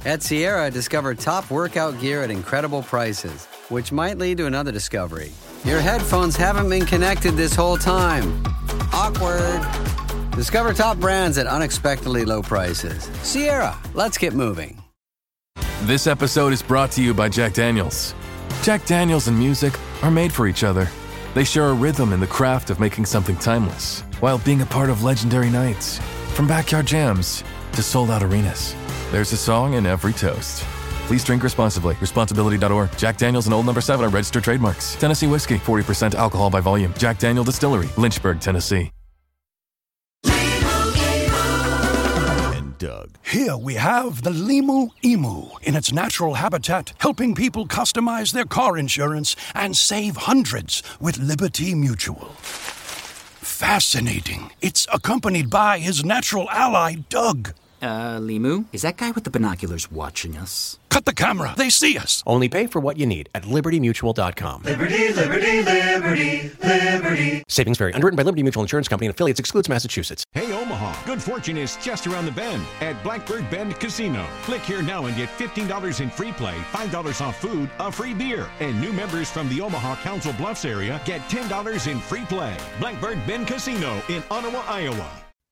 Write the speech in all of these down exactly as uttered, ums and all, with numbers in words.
At Sierra, discover top workout gear at incredible prices, which might lead to another discovery. Your headphones haven't been connected this whole time. Awkward. Discover top brands at unexpectedly low prices. Sierra, let's get moving. This episode is brought to you by Jack Daniels. Jack Daniels and music are made for each other. They share a rhythm in the craft of making something timeless, while being a part of legendary nights. From backyard jams to sold-out arenas, there's a song in every toast. Please drink responsibly. Responsibility dot org. Jack Daniels and Old Number seven are registered trademarks. Tennessee whiskey, forty percent alcohol by volume. Jack Daniel Distillery, Lynchburg, Tennessee. And Doug. Here we have the Limu Emu in its natural habitat, helping people customize their car insurance and save hundreds with Liberty Mutual. Fascinating. It's accompanied by his natural ally, Doug. Uh, Limu? Is that guy with the binoculars watching us? Cut the camera. They see us. Only pay for what you need at liberty mutual dot com. Liberty, liberty, liberty, liberty. Savings vary. Underwritten by Liberty Mutual Insurance Company and affiliates. Excludes Massachusetts. Hey, Omaha. Good fortune is just around the bend at Blackbird Bend Casino. Click here now and get fifteen dollars in free play, five dollars off food, a free beer. And new members from the Omaha Council Bluffs area get ten dollars in free play. Blackbird Bend Casino in Ottawa, Iowa.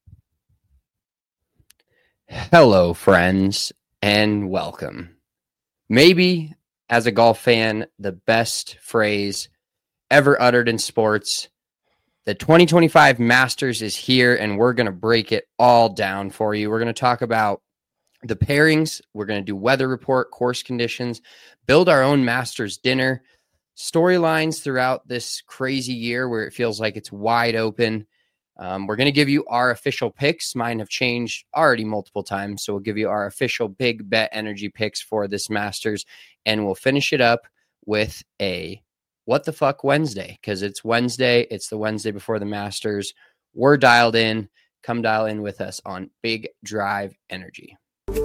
Hello, friends, and welcome. Maybe, as a golf fan, the best phrase ever uttered in sports. The twenty twenty-five Masters is here, and we're going to break it all down for you. We're going to talk about the pairings. We're going to do weather report, course conditions, build our own Masters dinner, storylines throughout this crazy year where it feels like it's wide open. Um, we're going to give you our official picks. Mine have changed already multiple times, so we'll give you our official big bet energy picks for this Masters, and we'll finish it up with a What the Fuck Wednesday, because it's Wednesday. It's the Wednesday before the Masters. We're dialed in. Come dial in with us on Big Drive Energy.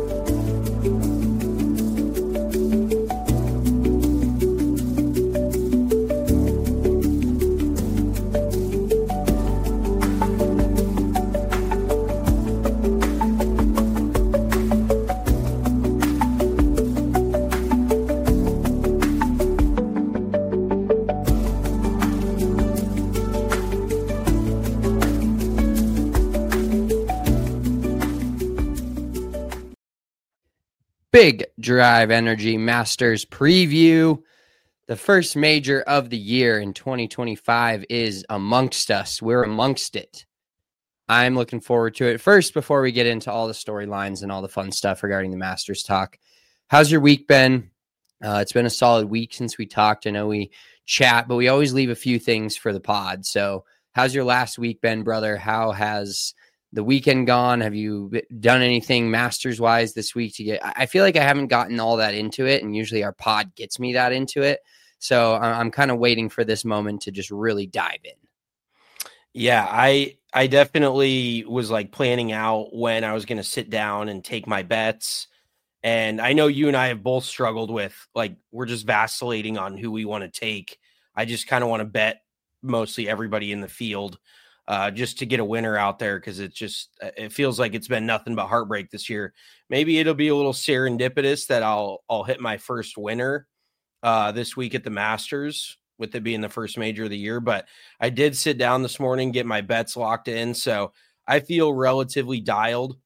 Big Drive Energy Masters preview. The first major of the year in twenty twenty-five is amongst us. We're amongst it. I'm looking forward to it. First, before we get into all the storylines and all the fun stuff regarding the Masters talk, how's your week been? Uh, it's been a solid week since we talked. I know we chat, but we always leave a few things for the pod. So how's your last week been, brother? How has the weekend gone? Have you done anything Masters wise this week to get, I feel like I haven't gotten all that into it, and usually our pod gets me that into it. So I'm kind of waiting for this moment to just really dive in. Yeah, I, I definitely was like planning out when I was going to sit down and take my bets. And I know you and I have both struggled with, like, we're just vacillating on who we want to take. I just kind of want to bet mostly everybody in the field. Uh, just to get a winner out there, because it just it feels like it's been nothing but heartbreak this year. Maybe it'll be a little serendipitous that I'll I'll hit my first winner uh, this week at the Masters, with it being the first major of the year. But I did sit down this morning, get my bets locked in, so I feel relatively dialed.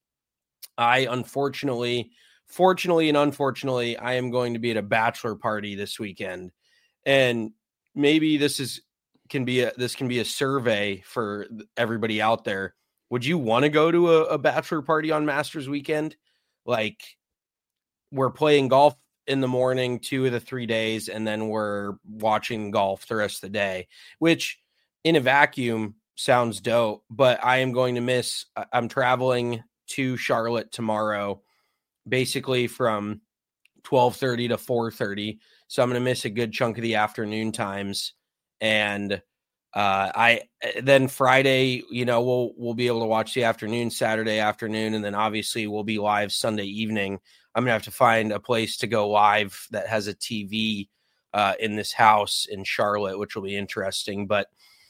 I unfortunately, fortunately and unfortunately, I am going to be at a bachelor party this weekend, and maybe this is. can be a this can be a survey for everybody out there. Would you want to go to a, a bachelor party on Masters weekend? Like, we're playing golf in the morning two of the three days, and then we're watching golf the rest of the day, which in a vacuum sounds dope, but I am going to miss, I'm traveling to Charlotte tomorrow, basically from twelve thirty to four thirty. So I'm going to miss a good chunk of the afternoon times. And uh, I then Friday, you know, we'll we'll be able to watch the afternoon, Saturday afternoon, and then obviously we'll be live Sunday evening. I'm gonna have to find a place to go live that has a T V uh, in this house in Charlotte, which will be interesting. But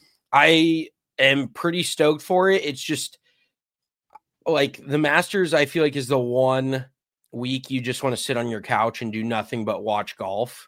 I am pretty stoked for it. It's just like the Masters, I feel like, is the one week you just want to sit on your couch and do nothing but watch golf.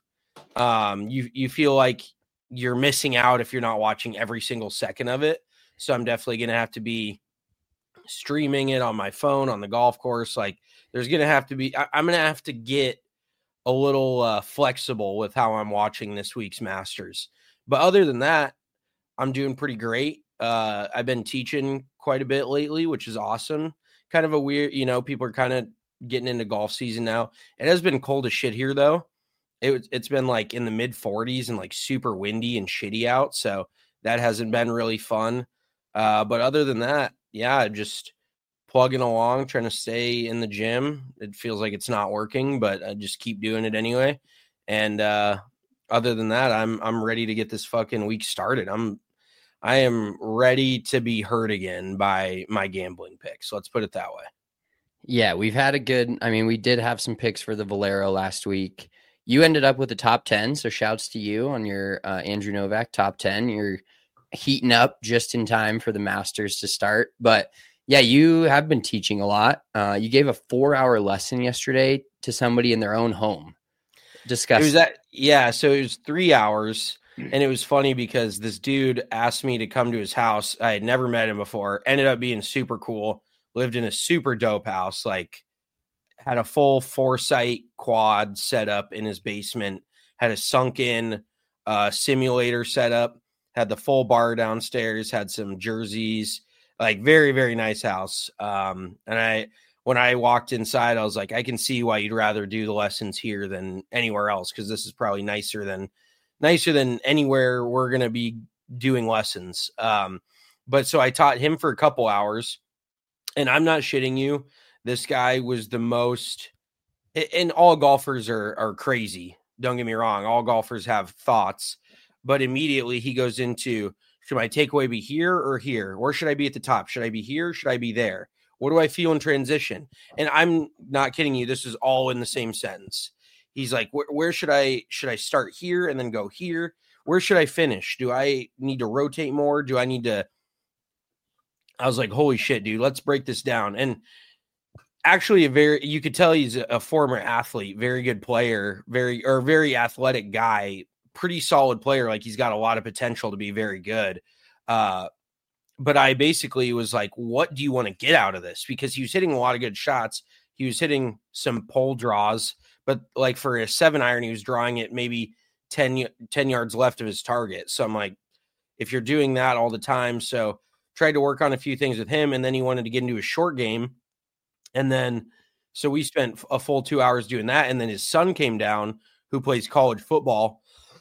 Um, you you feel like you're missing out if you're not watching every single second of it. So I'm definitely going to have to be streaming it on my phone on the golf course. Like there's going to have to be, I, I'm going to have to get a little uh, flexible with how I'm watching this week's Masters. But other than that, I'm doing pretty great. Uh, I've been teaching quite a bit lately, which is awesome. Kind of a weird, you know, people are kind of getting into golf season now. It has been cold as shit here though. It, it's been like in the mid forties and like super windy and shitty out. So that hasn't been really fun. Uh, but other than that, yeah, just plugging along, trying to stay in the gym. It feels like it's not working, but I just keep doing it anyway. And uh, other than that, I'm I'm ready to get this fucking week started. I'm I am ready to be hurt again by my gambling picks. Let's put it that way. Yeah, we've had a good. I mean, we did have some picks for the Valero last week. You ended up with the top ten, so shouts to you on your uh, Andrew Novak top ten. You're heating up just in time for the Masters to start. But yeah, you have been teaching a lot. Uh, you gave a four-hour lesson yesterday to somebody in their own home. Discuss. It was that, yeah, so it was three hours, and it was funny because this dude asked me to come to his house. I had never met him before. Ended up being super cool. Lived in a super dope house. Like, had a full Foresight quad set up in his basement. Had a sunken uh, simulator set up. Had the full bar downstairs. Had some jerseys. Like, very, very nice house. Um, and I, when I walked inside, I was like, I can see why you'd rather do the lessons here than anywhere else, because this is probably nicer than nicer than anywhere we're going to be doing lessons. Um, but so I taught him for a couple hours, and I'm not shitting you. This guy was the most, and all golfers are are crazy. Don't get me wrong. All golfers have thoughts, but immediately he goes into, should my takeaway be here or here? Where should I be at the top? Should I be here? Should I be there? What do I feel in transition? And I'm not kidding you. This is all in the same sentence. He's like, where, where should I, should I start here and then go here? Where should I finish? Do I need to rotate more? Do I need to, I was like, holy shit, dude, let's break this down. And actually a very, you could tell he's a former athlete, very good player, very, or very athletic guy, pretty solid player. Like, he's got a lot of potential to be very good. Uh, but I basically was like, what do you want to get out of this? Because he was hitting a lot of good shots. He was hitting some pole draws, but like for a seven iron, he was drawing it maybe ten, ten yards left of his target. So I'm like, if you're doing that all the time, so tried to work on a few things with him, and then he wanted to get into a short game. And then, so we spent a full two hours doing that. And then his son came down, who plays college football.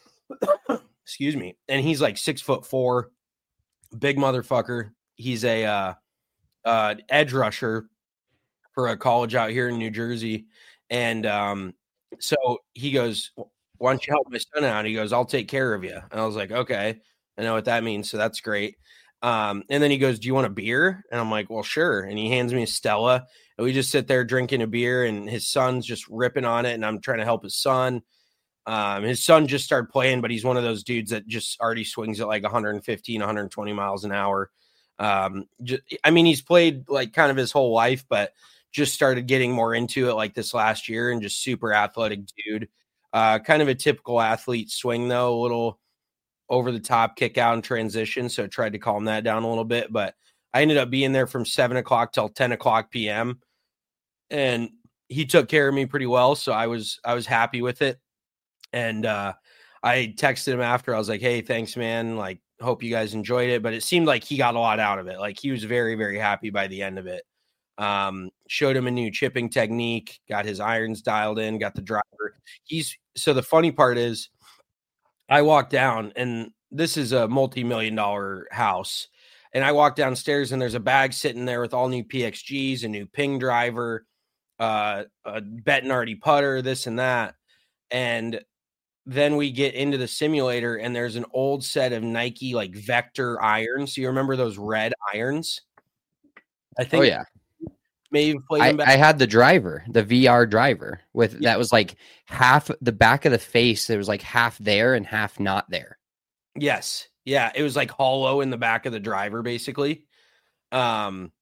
Excuse me. And he's like six foot four, big motherfucker. He's a uh, uh, edge rusher for a college out here in New Jersey. And um, so he goes, why don't you help my son out? He goes, I'll take care of you. And I was like, okay, I know what that means. So that's great. Um, and then he goes, do you want a beer? And I'm like, well, sure. And he hands me a Stella, and we just sit there drinking a beer, and his son's just ripping on it. And I'm trying to help his son. Um, his son just started playing, but he's one of those dudes that just already swings at like one fifteen, one twenty miles an hour. Um, just, I mean, he's played like kind of his whole life, but just started getting more into it like this last year, and just super athletic dude. Uh, kind of a typical athlete swing though, a little over the top kick out and transition. So I tried to calm that down a little bit, but I ended up being there from seven o'clock till ten o'clock P M, and he took care of me pretty well. So I was, I was happy with it. And uh, I texted him after. I was like, hey, thanks, man. Like, hope you guys enjoyed it. But it seemed like he got a lot out of it. Like, he was very, very happy by the end of it. Um, showed him a new chipping technique, got his irons dialed in, got the driver. He's, so the funny part is, I walked down, and this is a multi-million dollar house. And I walked downstairs, and there's a bag sitting there with all new P X Gs, a new ping driver, uh, a Bettinardi putter, this and that. And then we get into the simulator, and there's an old set of Nike like Vector irons. So you remember those red irons? I think. Oh yeah. Maybe played I, them back. I had the driver, the V R driver with Yeah. that was like half the back of the face. There was like half there and half not there. Yes. Yeah. It was like hollow in the back of the driver, basically. Um,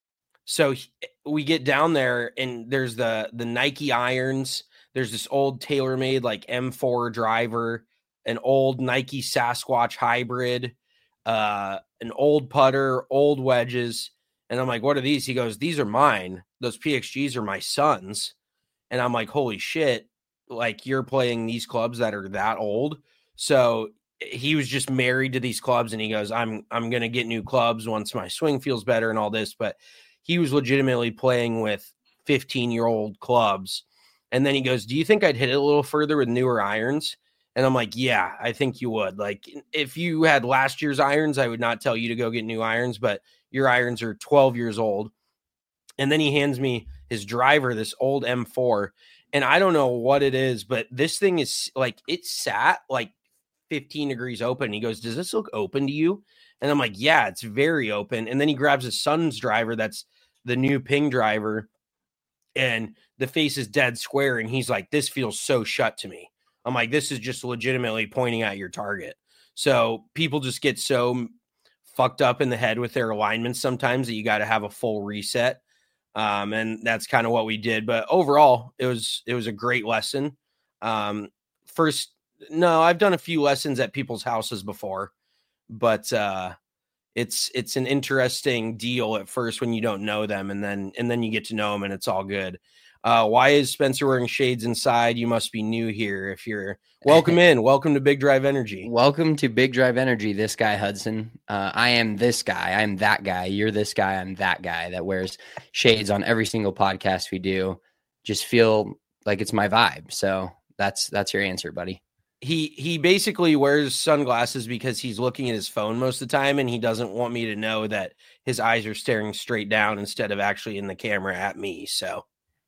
So he, we get down there and there's the the Nike irons. There's this old TaylorMade like M four driver, an old Nike Sasquatch hybrid, uh, an old putter, old wedges. And I'm like, what are these? He goes, these are mine. Those P X Gs are my son's. And I'm like, holy shit. Like, you're playing these clubs that are that old. So he was just married to these clubs. And he goes, I'm, I'm going to get new clubs once my swing feels better and all this. But he was legitimately playing with fifteen year old clubs. And then he goes, do you think I'd hit it a little further with newer irons? And I'm like, yeah, I think you would. Like, if you had last year's irons, I would not tell you to go get new irons, but your irons are twelve years old. And then he hands me his driver, this old M four. And I don't know what it is, but this thing is like, it sat like fifteen degrees open. He goes, does this look open to you? And I'm like, yeah, it's very open. And then he grabs his son's driver. That's the new Ping driver. And the face is dead square. And he's like, this feels so shut to me. I'm like, this is just legitimately pointing at your target. So people just get so fucked up in the head with their alignments sometimes that you got to have a full reset. Um, and that's kind of what we did. But overall, it was it was a great lesson. Um, first, no, I've done a few lessons at people's houses before, but uh, it's it's an interesting deal at first when you don't know them, and then and then you get to know them, and it's all good. Uh, why is Spencer wearing shades inside? You must be new here. If you're welcome in, welcome to Big Drive Energy. Welcome to Big Drive Energy. This guy, Hudson. Uh, I am this guy. I'm that guy. You're this guy. I'm that guy that wears shades on every single podcast we do. Just feel like it's my vibe. So that's that's your answer, buddy. He he basically wears sunglasses because he's looking at his phone most of the time, and he doesn't want me to know that his eyes are staring straight down instead of actually in the camera at me. So.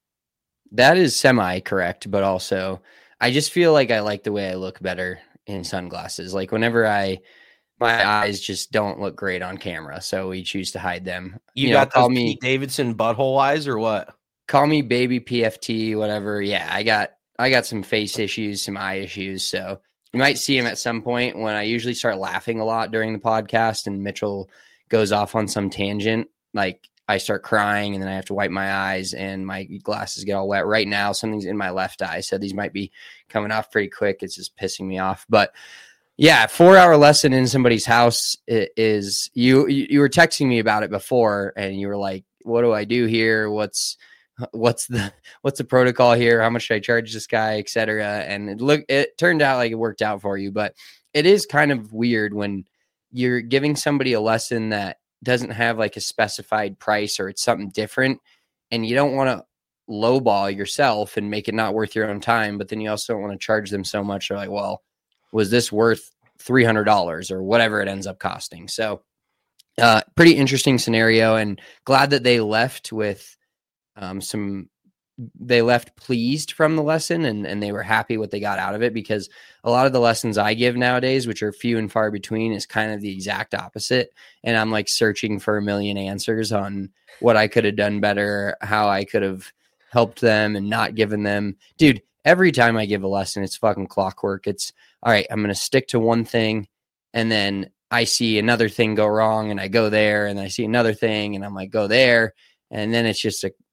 That is semi-correct, but also I just feel like I like the way I look better in sunglasses. Like whenever I, my eyes just don't look great on camera, so we choose to hide them. You, you got know, call those me Pete Davidson butthole eyes or what? Call me baby P F T, whatever. Yeah, I got I got some face issues, some eye issues, so you might see them at some point when I usually start laughing a lot during the podcast and Mitchell goes off on some tangent, like I start crying and then I have to wipe my eyes and my glasses get all wet. Right now, something's in my left eye, so these might be coming off pretty quick. It's just pissing me off. But yeah, four hour lesson in somebody's house is you, you were texting me about it before and you were like, what do I do here? What's, what's the, what's the protocol here? How much should I charge this guy, et cetera? And it look, it turned out like it worked out for you, but it is kind of weird when you're giving somebody a lesson that doesn't have like a specified price or it's something different and you don't want to lowball yourself and make it not worth your own time, but then you also don't want to charge them so much. They're like, well, was this worth three hundred dollars or whatever it ends up costing? So uh, pretty interesting scenario, and glad that they left with um, some, they left pleased from the lesson and, and they were happy what they got out of it, because a lot of the lessons I give nowadays, which are few and far between, is kind of the exact opposite. And I'm like searching for a million answers on what I could have done better, how I could have helped them and not given them. Dude, every time I give a lesson, it's fucking clockwork. It's all right, I'm going to stick to one thing. And then I see another thing go wrong and I go there, and I see another thing and I'm like, go there. And then it's just a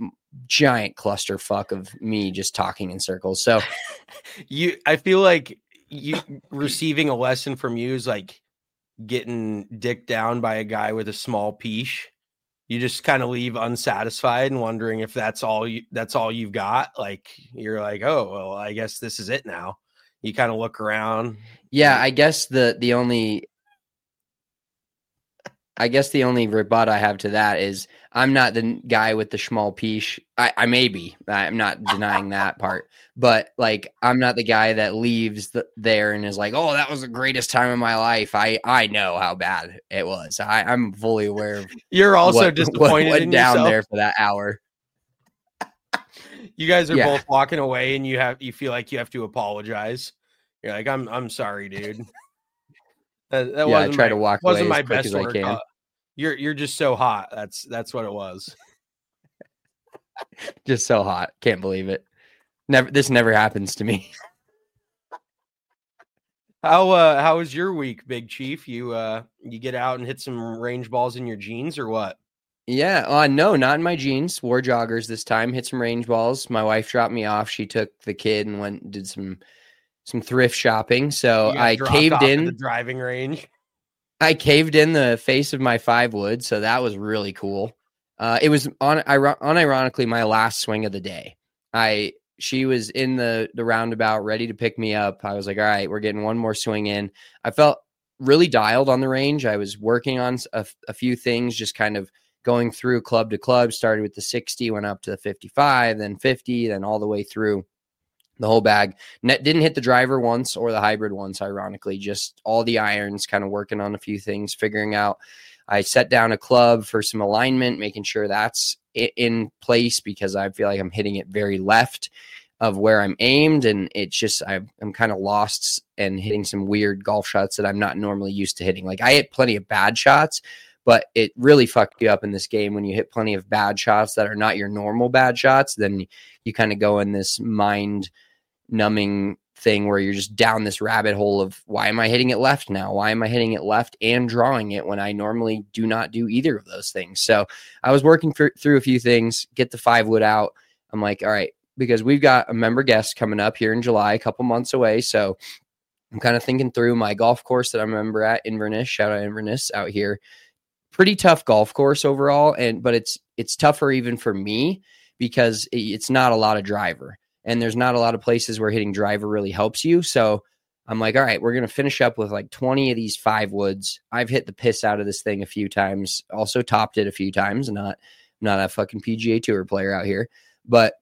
giant clusterfuck of me just talking in circles. So you, I feel like you receiving a lesson from you is like getting dicked down by a guy with a small piece. You just kind of leave unsatisfied and wondering if that's all you, that's all you've got. Like, you're like, oh, well, I guess this is it now. You kind of look around. Yeah. I guess the, the only, I guess the only rebut I have to that is I'm not the guy with the small piece. I, I may be. I'm not denying that part. But, like, I'm not the guy that leaves the, there and is like, oh, that was the greatest time of my life. I, I know how bad it was. I, I'm fully aware of You're also what, disappointed what went in down yourself. there for that hour. You guys are Yeah. both walking away and you have you feel like you have to apologize. You're like, I'm I'm sorry, dude. That, that Yeah, I wasn't try my, to walk wasn't away my as quick best as I work. can. Uh, you're you're just so hot. That's that's what it was. Just so hot. Can't believe it. Never. This never happens to me. How uh how was your week, Big Chief? You uh you get out and hit some range balls in your jeans or what? Yeah, uh, no, not in my jeans. Wore joggers this time. Hit some range balls. My wife dropped me off. She took the kid and went and did some some thrift shopping. So I caved in the driving range. I caved in the face of my five wood, so that was really cool. Uh, it was on unironically my last swing of the day. I she was in the the roundabout, ready to pick me up. I was like, all right, we're getting one more swing in. I felt really dialed on the range. I was working on a, a few things, just kind of going through club to club. Started with the sixty, went up to the fifty-five, then fifty, then all the way through the whole bag. Net didn't hit the driver once or the hybrid once, ironically, just all the irons, kind of working on a few things, figuring out. I set down a club for some alignment, making sure that's in place because I feel like I'm hitting it very left of where I'm aimed. And it's just, I'm, I'm kind of lost and hitting some weird golf shots that I'm not normally used to hitting. Like I hit plenty of bad shots, but it really fucked you up in this game when you hit plenty of bad shots that are not your normal bad shots. Then you kind of go in this mind numbing thing where you're just down this rabbit hole of why am I hitting it left now? Why am I hitting it left and drawing it when I normally do not do either of those things? So I was working for, through a few things, get the five wood out. I'm like, all right, because we've got a member guest coming up here in July, a couple months away. So I'm kind of thinking through my golf course that I'm a member at, Inverness, shout out Inverness out here. Pretty tough golf course overall. And, but it's, it's tougher even for me because it's not a lot of driver. And there's not a lot of places where hitting driver really helps you. So I'm like, all right, we're going to finish up with like twenty of these five woods. I've hit the piss out of this thing a few times, also topped it a few times. Not, not a fucking P G A Tour player out here. But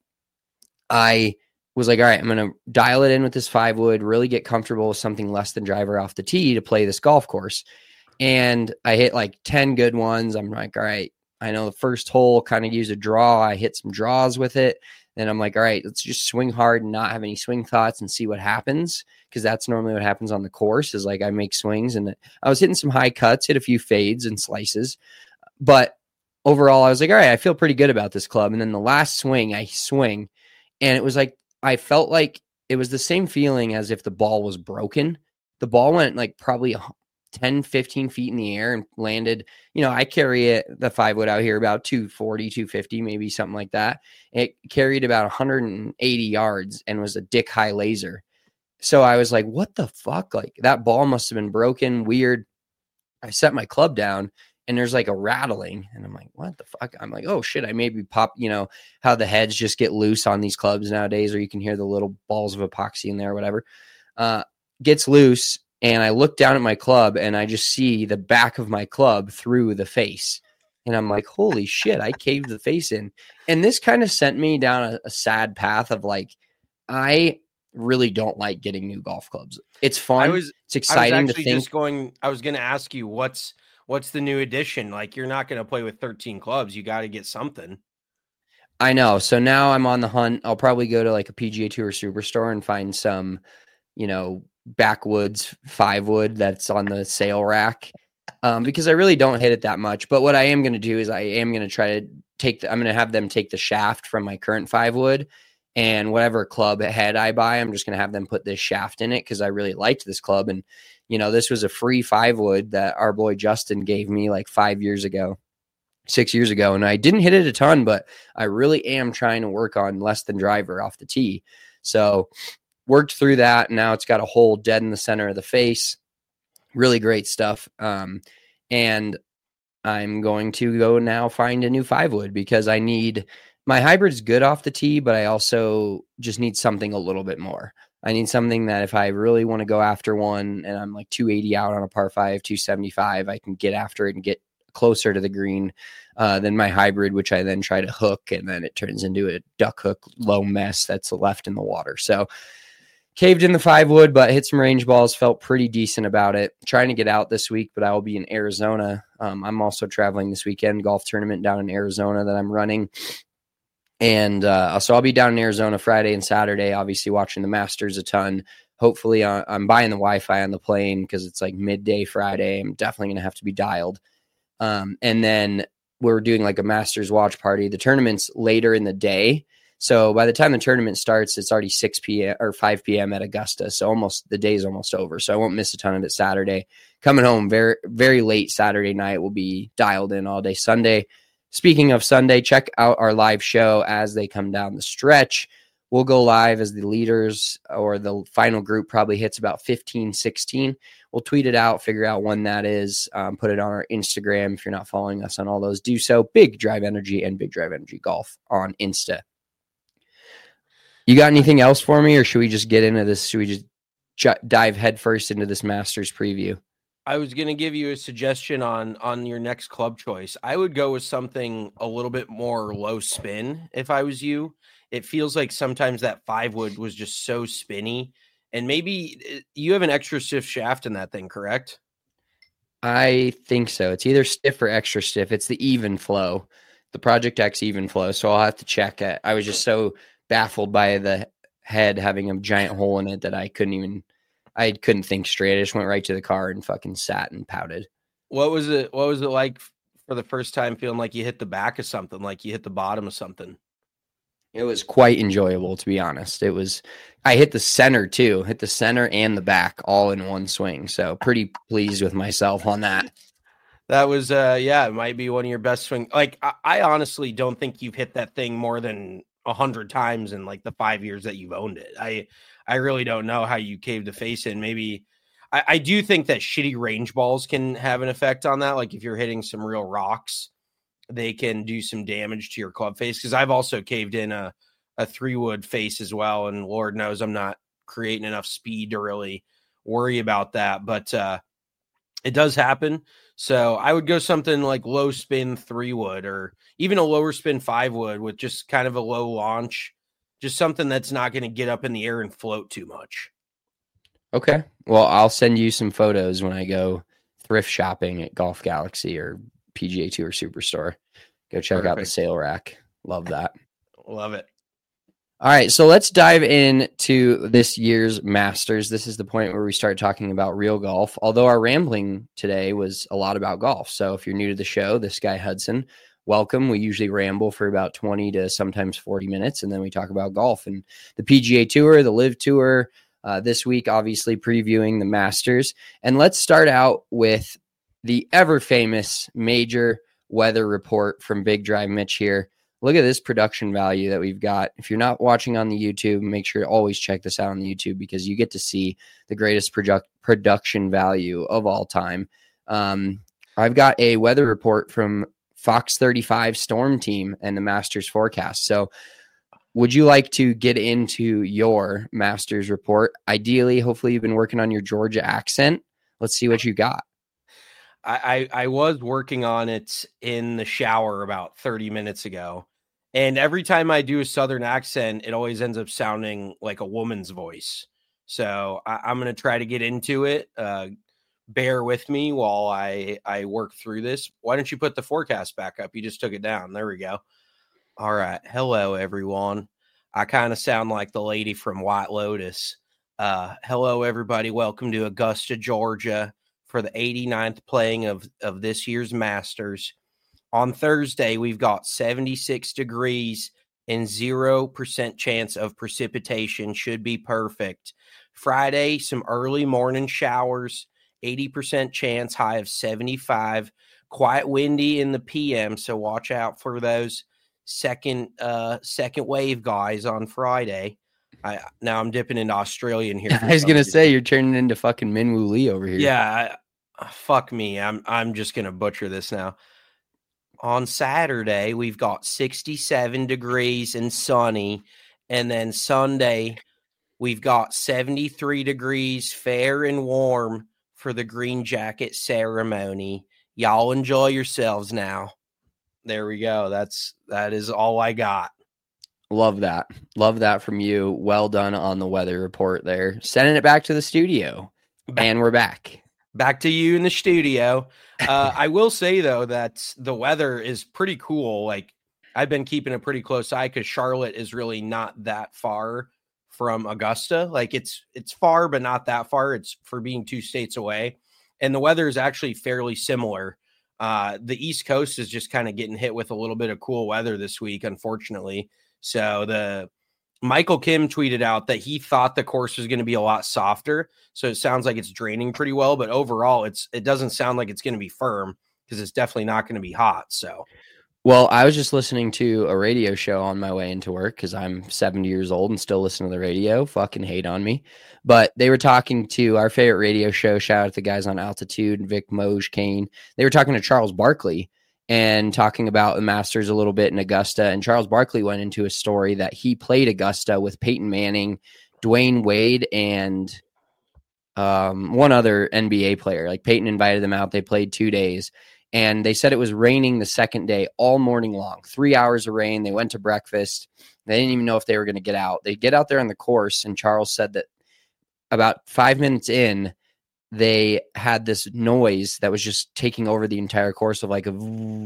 I was like, all right, I'm going to dial it in with this five wood, really get comfortable with something less than driver off the tee to play this golf course. And I hit like ten good ones. I'm like, all right, I know the first hole kind of use a draw. I hit some draws with it. Then I'm like, all right, let's just swing hard and not have any swing thoughts and see what happens. Because that's normally what happens on the course is like I make swings. And I was hitting some high cuts, hit a few fades and slices. But overall, I was like, all right, I feel pretty good about this club. And then the last swing, I swing. And it was like, I felt like it was the same feeling as if the ball was broken. The ball went like probably ten, fifteen feet in the air and landed, you know, I carry it, the five wood out here about two forty, two fifty, maybe something like that. It carried about one hundred eighty yards and was a dick high laser. So I was like, what the fuck? Like that ball must have been broken. Weird. I set my club down and there's like a rattling and I'm like, what the fuck? I'm like, oh shit. I maybe pop, you know, how the heads just get loose on these clubs nowadays, or you can hear the little balls of epoxy in there or whatever, uh, gets loose. And I look down at my club and I just see the back of my club through the face. And I'm like, holy shit, I caved the face in. And this kind of sent me down a, a sad path of like, I really don't like getting new golf clubs. It's fun. I was, it's exciting I was to think. Just going, I was going to ask you, what's, what's the new edition? Like, you're not going to play with thirteen clubs. You got to get something. I know. So now I'm on the hunt. I'll probably go to like a P G A Tour Superstore and find some, you know, backwoods five wood that's on the sale rack, um, because I really don't hit it that much. But what I am going to do is I am going to try to take the, I'm going to have them take the shaft from my current five wood, and whatever club head I buy, I'm just going to have them put this shaft in it because I really liked this club. And, you know, this was a free five wood that our boy Justin gave me like five years ago, six years ago. And I didn't hit it a ton, but I really am trying to work on less than driver off the tee. So worked through that. And now it's got a hole dead in the center of the face. Really great stuff. Um, and I'm going to go now find a new five wood because I need, my hybrid's good off the tee, but I also just need something a little bit more. I need something that if I really want to go after one and I'm like two eighty out on a par five, two seventy-five, I can get after it and get closer to the green uh, than my hybrid, which I then try to hook. And then it turns into a duck hook low mess that's left in the water. So caved in the five wood, but hit some range balls, felt pretty decent about it. Trying to get out this week, but I will be in Arizona. Um, I'm also traveling this weekend, golf tournament down in Arizona that I'm running. And uh, so I'll be down in Arizona Friday and Saturday, obviously watching the Masters a ton. Hopefully uh, I'm buying the Wi-Fi on the plane because it's like midday Friday. I'm definitely going to have to be dialed. Um, and then we're doing like a Masters watch party. The tournament's later in the day. So by the time the tournament starts, it's already six p.m. or five p.m. at Augusta. So almost the day's almost over. So I won't miss a ton of it Saturday. Coming home very, very late Saturday night. We'll be dialed in all day Sunday. speaking of Sunday, check out our live show as they come down the stretch. We'll go live as the leaders or the final group probably hits about fifteen, sixteen. We'll tweet it out, figure out when that is, um, put it on our Instagram. If you're not following us on all those, do so. Big Drive Energy and Big Drive Energy Golf on Insta. You got anything else for me, or should we just get into this? Should we just j- dive headfirst into this Masters preview? I was going to give you a suggestion on on your next club choice. I would go with something a little bit more low spin if I was you. It feels like sometimes that five wood was just so spinny, and maybe you have an extra stiff shaft in that thing, correct? I think so. It's either stiff or extra stiff. It's the even flow, the Project X even flow. So I'll have to check it. I was just so baffled by the head having a giant hole in it that I couldn't even, I couldn't think straight. I just went right to the car and fucking sat and pouted. What was it? What was it like for the first time feeling like you hit the back of something, like you hit the bottom of something? It was quite enjoyable, to be honest. It was, I hit the center too, hit the center and the back all in one swing. So pretty pleased with myself on that. That was, uh, yeah, it might be one of your best swings. Like, I, I honestly don't think you've hit that thing more than a hundred times in like the five years that you've owned it. I, I really don't know how you caved the face in. Maybe I, I do think that shitty range balls can have an effect on that. Like if you're hitting some real rocks, they can do some damage to your club face. Cause I've also caved in a, a three wood face as well. And Lord knows I'm not creating enough speed to really worry about that, but, uh, it does happen. So I would go something like low spin three wood or even a lower spin five wood with just kind of a low launch, just something that's not going to get up in the air and float too much. Okay. Well, I'll send you some photos when I go thrift shopping at Golf Galaxy or P G A Tour Superstore. Go check Perfect. out the sale rack. Love that. Love it. All right, so let's dive into this year's Masters. This is the point where we start talking about real golf, although our rambling today was a lot about golf. So if you're new to the show, this guy Hudson, welcome. We usually ramble for about twenty to sometimes forty minutes, and then we talk about golf and the P G A Tour, the Live Tour. Uh, this week, obviously, previewing the Masters. And let's start out with the ever-famous major weather report from Big Drive Mitch here. Look at this production value that we've got. If you're not watching on the YouTube, make sure to always check this out on the YouTube because you get to see the greatest produ- production value of all time. Um, I've got a weather report from Fox thirty-five Storm Team and the Masters forecast. So would you like to get into your Masters report? Ideally, hopefully you've been working on your Georgia accent. Let's see what you got. I, I, I was working on it in the shower about thirty minutes ago. And every time I do a Southern accent, it always ends up sounding like a woman's voice. So I, I'm going to try to get into it. Uh, bear with me while I, I work through this. Why don't you put the forecast back up? You just took it down. There we go. All right. Hello, everyone. I kind of sound like the lady from White Lotus. Uh, hello, everybody. Welcome to Augusta, Georgia, for the eighty-ninth playing of, of this year's Masters. On Thursday, we've got seventy-six degrees and zero percent chance of precipitation. Should be perfect. Friday, some early morning showers, eighty percent chance, high of seventy-five. Quite windy in the P M, so watch out for those second uh, second wave guys on Friday. I, now I'm dipping into Australian here. I was going to say, you're turning into fucking Minwoo Lee over here. Yeah, I, fuck me. I'm I'm just going to butcher this now. On Saturday, we've got sixty-seven degrees and sunny. And then Sunday, we've got seventy-three degrees, fair and warm for the green jacket ceremony. Y'all enjoy yourselves now. There we go. That's that is all I got. Love that. Love that from you. Well done on the weather report there. Sending it back to the studio. Back, and we're back. Back to you in the studio. Uh, I will say, though, that the weather is pretty cool. Like, I've been keeping a pretty close eye because Charlotte is really not that far from Augusta. Like, it's it's far, but not that far. It's for being two states away. And the weather is actually fairly similar. Uh, the East Coast is just kind of getting hit with a little bit of cool weather this week, unfortunately. So the Michael Kim tweeted out that he thought the course was going to be a lot softer. So it sounds like it's draining pretty well, but overall it's, it doesn't sound like it's going to be firm because it's definitely not going to be hot. So, Well, I was just listening to a radio show on my way into work because I'm seventy years old and still listen to the radio. Fucking hate on me. But they were talking to our favorite radio show. Shout out to the guys on Altitude, Vic, Moj, Kane. They were talking to Charles Barkley and talking about the Masters a little bit in Augusta. And Charles Barkley went into a story that he played Augusta with Peyton Manning, Dwayne Wade, and um, one other N B A player. Like Peyton invited them out. They played two days. And they said it was raining the second day all morning long, three hours of rain. They went to breakfast. They didn't even know if they were going to get out. They get out there on the course, and Charles said that about five minutes in, they had this noise that was just taking over the entire course of like a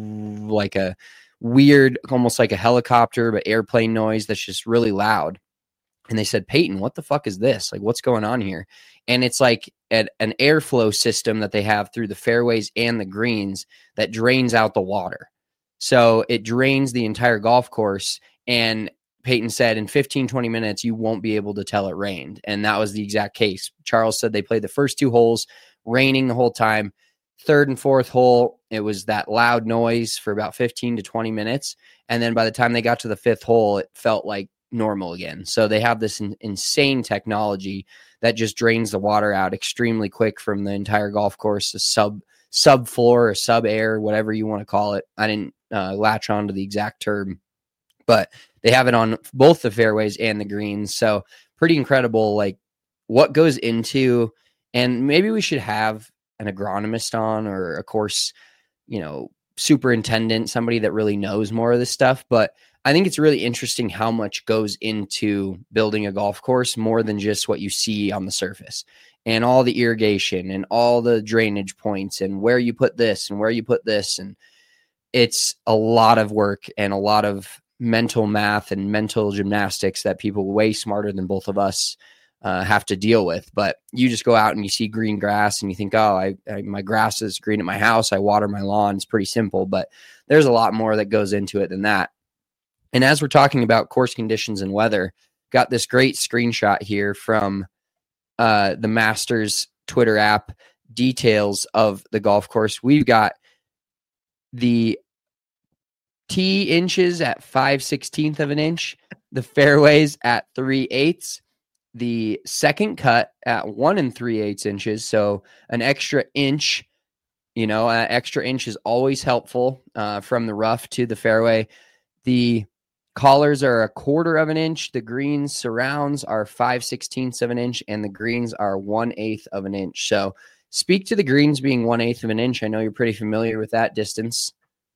like a weird, almost like a helicopter, but airplane noise that's just really loud. And they said, Peyton, what the fuck is this? Like, what's going on here? And it's like an, an airflow system that they have through the fairways and the greens that drains out the water. So it drains the entire golf course. And Peyton said in fifteen, twenty minutes, you won't be able to tell it rained. And that was the exact case. Charles said they played the first two holes, raining the whole time. Third and fourth hole, it was that loud noise for about fifteen to twenty minutes. And then by the time they got to the fifth hole, it felt like normal again. So they have this in, insane technology that just drains the water out extremely quick from the entire golf course, a sub sub floor or sub air, whatever you want to call it. I didn't uh, latch on to the exact term, but they have it on both the fairways and the greens. So pretty incredible, like what goes into, and maybe we should have an agronomist on or a course, you know, superintendent, somebody that really knows more of this stuff. But I think it's really interesting how much goes into building a golf course more than just what you see on the surface, and all the irrigation and all the drainage points and where you put this and where you put this. And it's a lot of work and a lot of mental math and mental gymnastics that people way smarter than both of us uh, have to deal with. But you just go out and you see green grass and you think, oh, I, I my grass is green at my house. I water my lawn. It's pretty simple, but there's a lot more that goes into it than that. And as we're talking about course conditions and weather, got this great screenshot here from uh, the Masters Twitter app, details of the golf course. We've got the tee inches at five sixteenths of an inch, the fairways at three eighths, the second cut at one and three eighths inches. So an extra inch, you know, an extra inch is always helpful uh, from the rough to the fairway. The collars are a quarter of an inch. The greens surrounds are five sixteenths of an inch, and the greens are one eighth of an inch. So speak to the greens being one eighth of an inch. I know you're pretty familiar with that distance.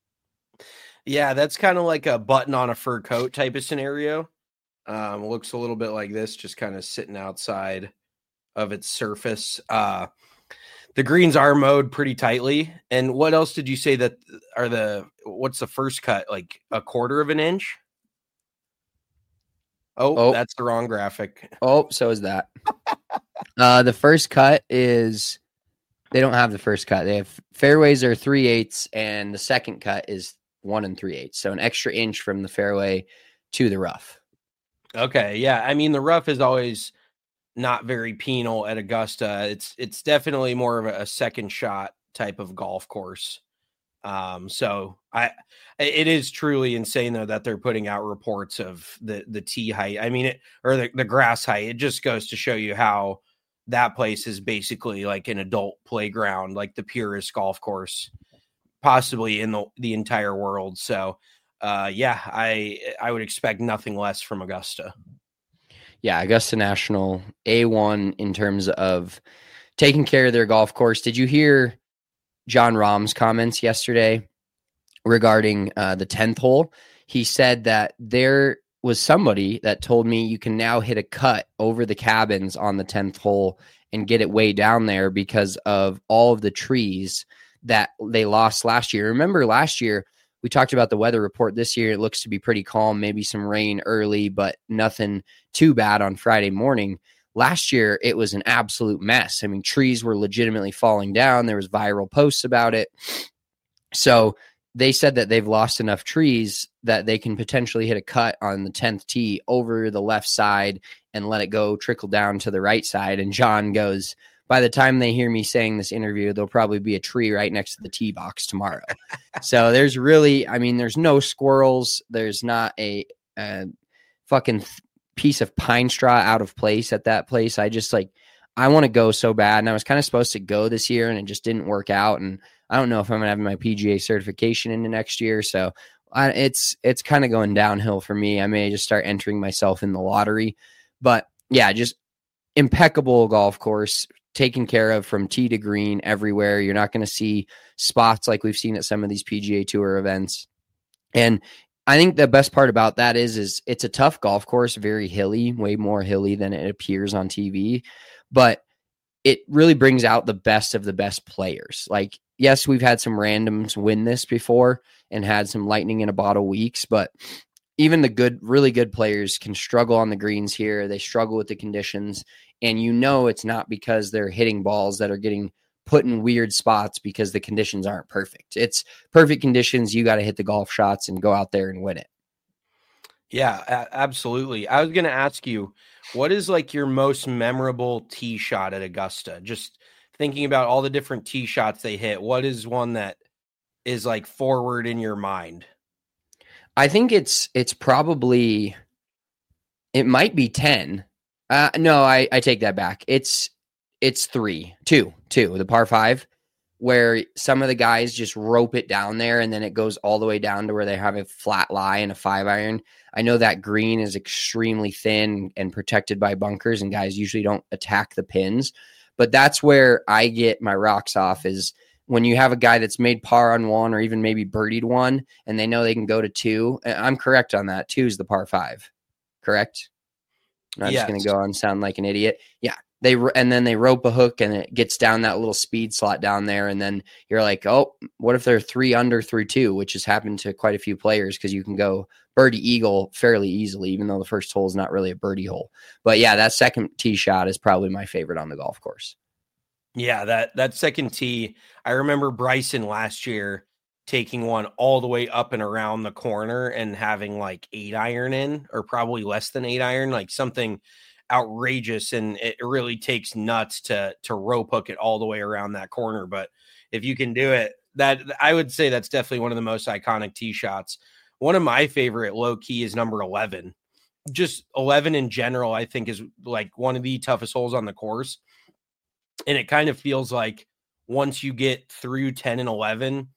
Yeah, that's kind of like a button on a fur coat type of scenario. Um, looks a little bit like this, just kind of sitting outside of its surface. Uh, the greens are mowed pretty tightly. And what else did you say that are the, what's the first cut? Like a quarter of an inch? Oh, oh, that's the wrong graphic. Oh, so is that. uh, the first cut is, they don't have the first cut. They have fairways are three eighths, and the second cut is one and three eighths. So an extra inch from the fairway to the rough. Okay. Yeah. I mean, the rough is always not very penal at Augusta. It's, it's definitely more of a, a second shot type of golf course. Um, so I, it is truly insane though, that they're putting out reports of the, the tee height. I mean, it, or the, the grass height. It just goes to show you how that place is basically like an adult playground, like the purest golf course possibly in the, the entire world. So, uh, yeah, I, I would expect nothing less from Augusta. Yeah. Augusta National A one in terms of taking care of their golf course. Did you hear John Rahm's comments yesterday regarding uh, the tenth hole? He said that there was somebody that told me you can now hit a cut over the cabins on the tenth hole and get it way down there because of all of the trees that they lost last year. Remember last year, we talked about the weather report. This year, it looks to be pretty calm, maybe some rain early, but nothing too bad on Friday morning. Last year, it was an absolute mess. I mean, trees were legitimately falling down. There was viral posts about it. So they said that they've lost enough trees that they can potentially hit a cut on the tenth tee over the left side and let it go trickle down to the right side. And John goes, by the time they hear me saying this interview, there'll probably be a tree right next to the tee box tomorrow. So there's really, I mean, there's no squirrels. There's not a, a fucking th- piece of pine straw out of place at that place. I just like, I want to go so bad. And I was kind of supposed to go this year and it just didn't work out. And I don't know if I'm going to have my P G A certification into next year. So I, it's, it's kind of going downhill for me. I may just start entering myself in the lottery, but yeah, just impeccable golf course, taken care of from tee to green everywhere. You're not going to see spots like we've seen at some of these P G A Tour events. And I think the best part about that is, is it's a tough golf course, very hilly, way more hilly than it appears on T V, but it really brings out the best of the best players. Like, yes, we've had some randoms win this before and had some lightning in a bottle weeks, but even the good, really good players can struggle on the greens here. They struggle with the conditions. And you know it's not because they're hitting balls that are getting put in weird spots because the conditions aren't perfect. It's perfect conditions. You got to hit the golf shots and go out there and win it. Yeah, a- absolutely. I was going to ask you, what is like your most memorable tee shot at Augusta? Just thinking about all the different tee shots they hit, what is one that is like forward in your mind? I think it's it's probably, it might be ten. Uh, no, I, I take that back. It's it's three, two, two, the par five, where some of the guys just rope it down there and then it goes all the way down to where they have a flat lie and a five iron. I know that green is extremely thin and protected by bunkers and guys usually don't attack the pins, but that's where I get my rocks off is when you have a guy that's made par on one or even maybe birdied one and they know they can go to two. I'm correct on that. Two is the par five, correct? I'm not yes. just going to go and sound like an idiot. Yeah. They and then they rope a hook and it gets down that little speed slot down there. And then you're like, oh, what if they're three under through two, which has happened to quite a few players because you can go birdie eagle fairly easily, even though the first hole is not really a birdie hole. But yeah, that second tee shot is probably my favorite on the golf course. Yeah, that that second tee, I remember Bryson last year taking one all the way up and around the corner and having like eight iron in, or probably less than eight iron, like something outrageous. And it really takes nuts to to rope hook it all the way around that corner. But if you can do it, that I would say that's definitely one of the most iconic tee shots. One of my favorite low key is number eleven. Just eleven in general, I think is like one of the toughest holes on the course. And it kind of feels like once you get through ten and eleven,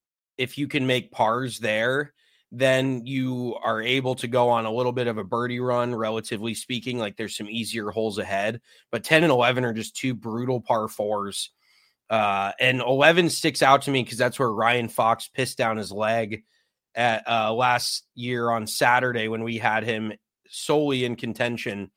if you can make pars there, then you are able to go on a little bit of a birdie run, relatively speaking. Like there's some easier holes ahead, but ten and eleven are just two brutal par fours. Uh, and eleven sticks out to me because that's where Ryan Fox pissed down his leg at uh, last year on Saturday when we had him solely in contention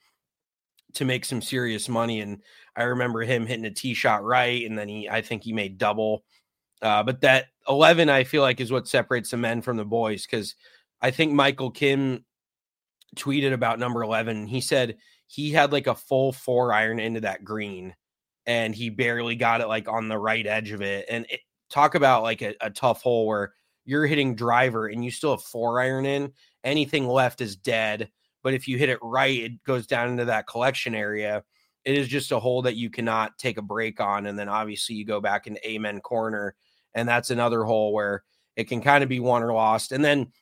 to make some serious money. And I remember him hitting a tee shot right, and then he, I think he made double. Uh, but that eleven, I feel like, is what separates the men from the boys, because I think Michael Kim tweeted about number eleven. He said he had like a full four iron into that green, and he barely got it like on the right edge of it. And it, talk about like a, a tough hole where you're hitting driver and you still have four iron in. Anything left is dead. But if you hit it right, it goes down into that collection area. It is just a hole that you cannot take a break on. And then obviously you go back into Amen Corner, and that's another hole where it can kind of be won or lost. And then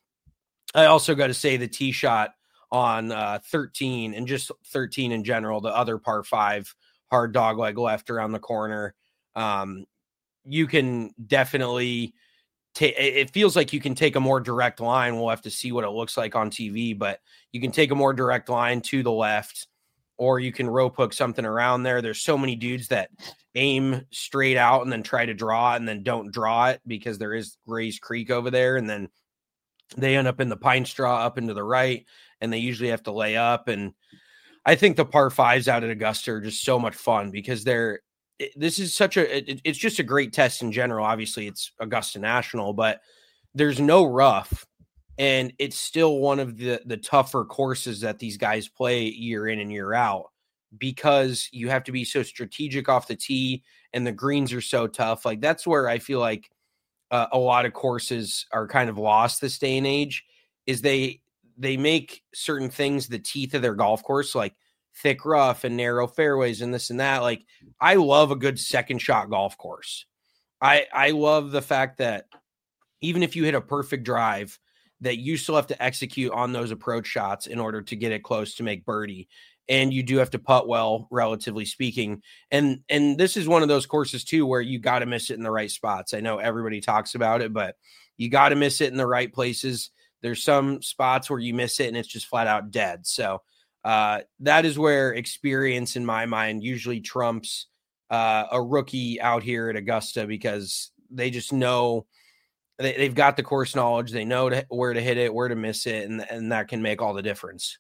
I also got to say the tee shot on uh, thirteen, and just thirteen in general, the other par five, hard dog leg left around the corner. Um, you can definitely take, it feels like you can take a more direct line. We'll have to see what it looks like on T V, but you can take a more direct line to the left, or you can rope hook something around there. There's so many dudes that aim straight out and then try to draw it and then don't draw it because there is Rays Creek over there. And then they end up in the pine straw up into the right, and they usually have to lay up. And I think the par fives out at Augusta are just so much fun because they're, it, this is such a, it, it's just a great test in general. Obviously it's Augusta National, but there's no rough, and it's still one of the, the tougher courses that these guys play year in and year out, because you have to be so strategic off the tee and the greens are so tough. Like that's where I feel like uh, a lot of courses are kind of lost this day and age, is they, they make certain things the teeth of their golf course. Like thick rough and narrow fairways and this and that. Like, I love a good second shot golf course. I I love the fact that even if you hit a perfect drive, that you still have to execute on those approach shots in order to get it close to make birdie. And you do have to putt well, relatively speaking. And and this is one of those courses too, where you got to miss it in the right spots. I know everybody talks about it, but you got to miss it in the right places. There's some spots where you miss it and it's just flat out dead. So uh, that is where experience in my mind usually trumps uh, a rookie out here at Augusta, because they just know they, they've got the course knowledge. They know to, where to hit it, where to miss it. And, and that can make all the difference.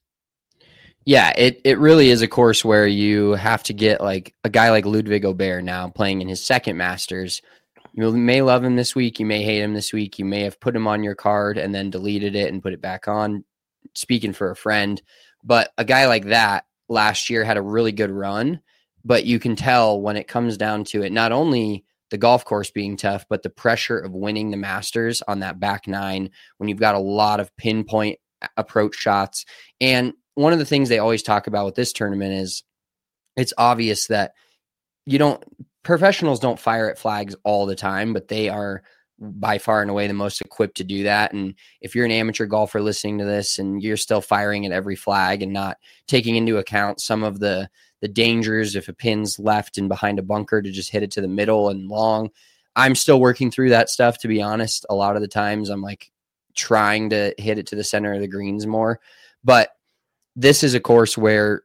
Yeah, it, it really is a course where you have to get like a guy like Ludwig Aubert now playing in his second Masters. You may love him this week. You may hate him this week. You may have put him on your card and then deleted it and put it back on, speaking for a friend. But a guy like that last year had a really good run, but you can tell when it comes down to it, not only the golf course being tough, but the pressure of winning the Masters on that back nine when you've got a lot of pinpoint approach shots. And one of the things they always talk about with this tournament is it's obvious that you don't, professionals don't fire at flags all the time, but they are by far and away the most equipped to do that. And if you're an amateur golfer listening to this and you're still firing at every flag and not taking into account some of the, the dangers, if a pin's left and behind a bunker, to just hit it to the middle and long, I'm still working through that stuff, to be honest. A lot of the times I'm like trying to hit it to the center of the greens more, but this is a course where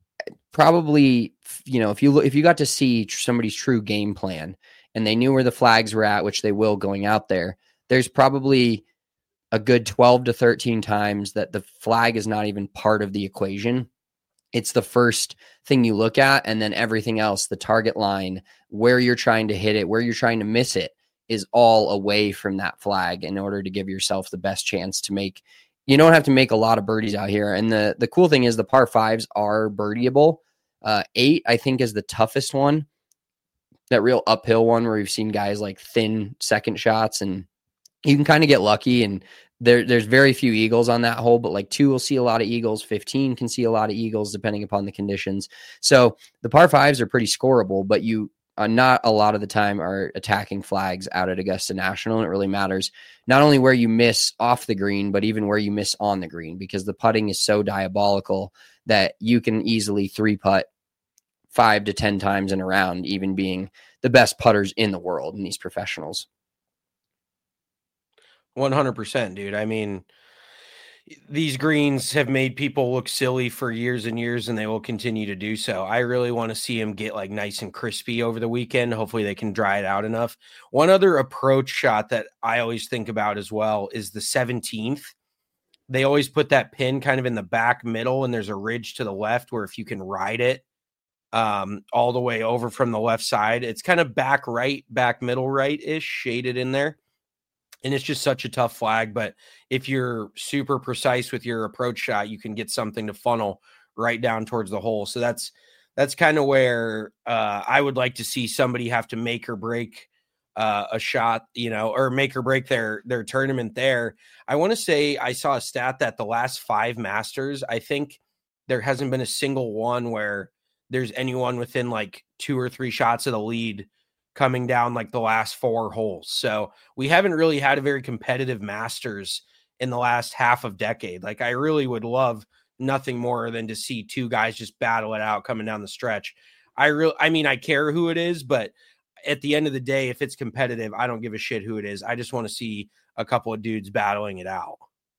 probably, you know, if you look, if you got to see somebody's true game plan and they knew where the flags were at, which they will going out there, there's probably a good twelve to thirteen times that the flag is not even part of the equation. It's the first thing you look at, and then everything else, the target line, where you're trying to hit it, where you're trying to miss it, is all away from that flag in order to give yourself the best chance to make. You don't have to make a lot of birdies out here. And the, the cool thing is the par fives are birdieable. Uh, eight, I think, is the toughest one. That real uphill one where we've seen guys like thin second shots, and you can kind of get lucky. And there, there's very few eagles on that hole, but like two will see a lot of eagles. fifteen can see a lot of eagles depending upon the conditions. So the par fives are pretty scoreable, but you Uh, not a lot of the time are attacking flags out at Augusta National. And it really matters not only where you miss off the green, but even where you miss on the green, because the putting is so diabolical that you can easily three putt five to ten times in a round, even being the best putters in the world in these professionals. one hundred percent, dude. I mean, these greens have made people look silly for years and years, and they will continue to do so. I really want to see them get like nice and crispy over the weekend. Hopefully they can dry it out enough. One other approach shot that I always think about as well is the seventeenth. They always put that pin kind of in the back middle, and there's a ridge to the left where if you can ride it um, all the way over from the left side, it's kind of back right, back middle right-ish, shaded in there. And it's just such a tough flag. But if you're super precise with your approach shot, you can get something to funnel right down towards the hole. So that's that's kind of where uh, I would like to see somebody have to make or break uh, a shot, you know, or make or break their their tournament there. I want to say I saw a stat that the last five Masters, I think there hasn't been a single one where there's anyone within like two or three shots of the lead coming down like the last four holes. So we haven't really had a very competitive Masters in the last half of decade. Like, I really would love nothing more than to see two guys just battle it out coming down the stretch. I really, I mean, I care who it is, but at the end of the day, if it's competitive, I don't give a shit who it is. I just want to see a couple of dudes battling it out.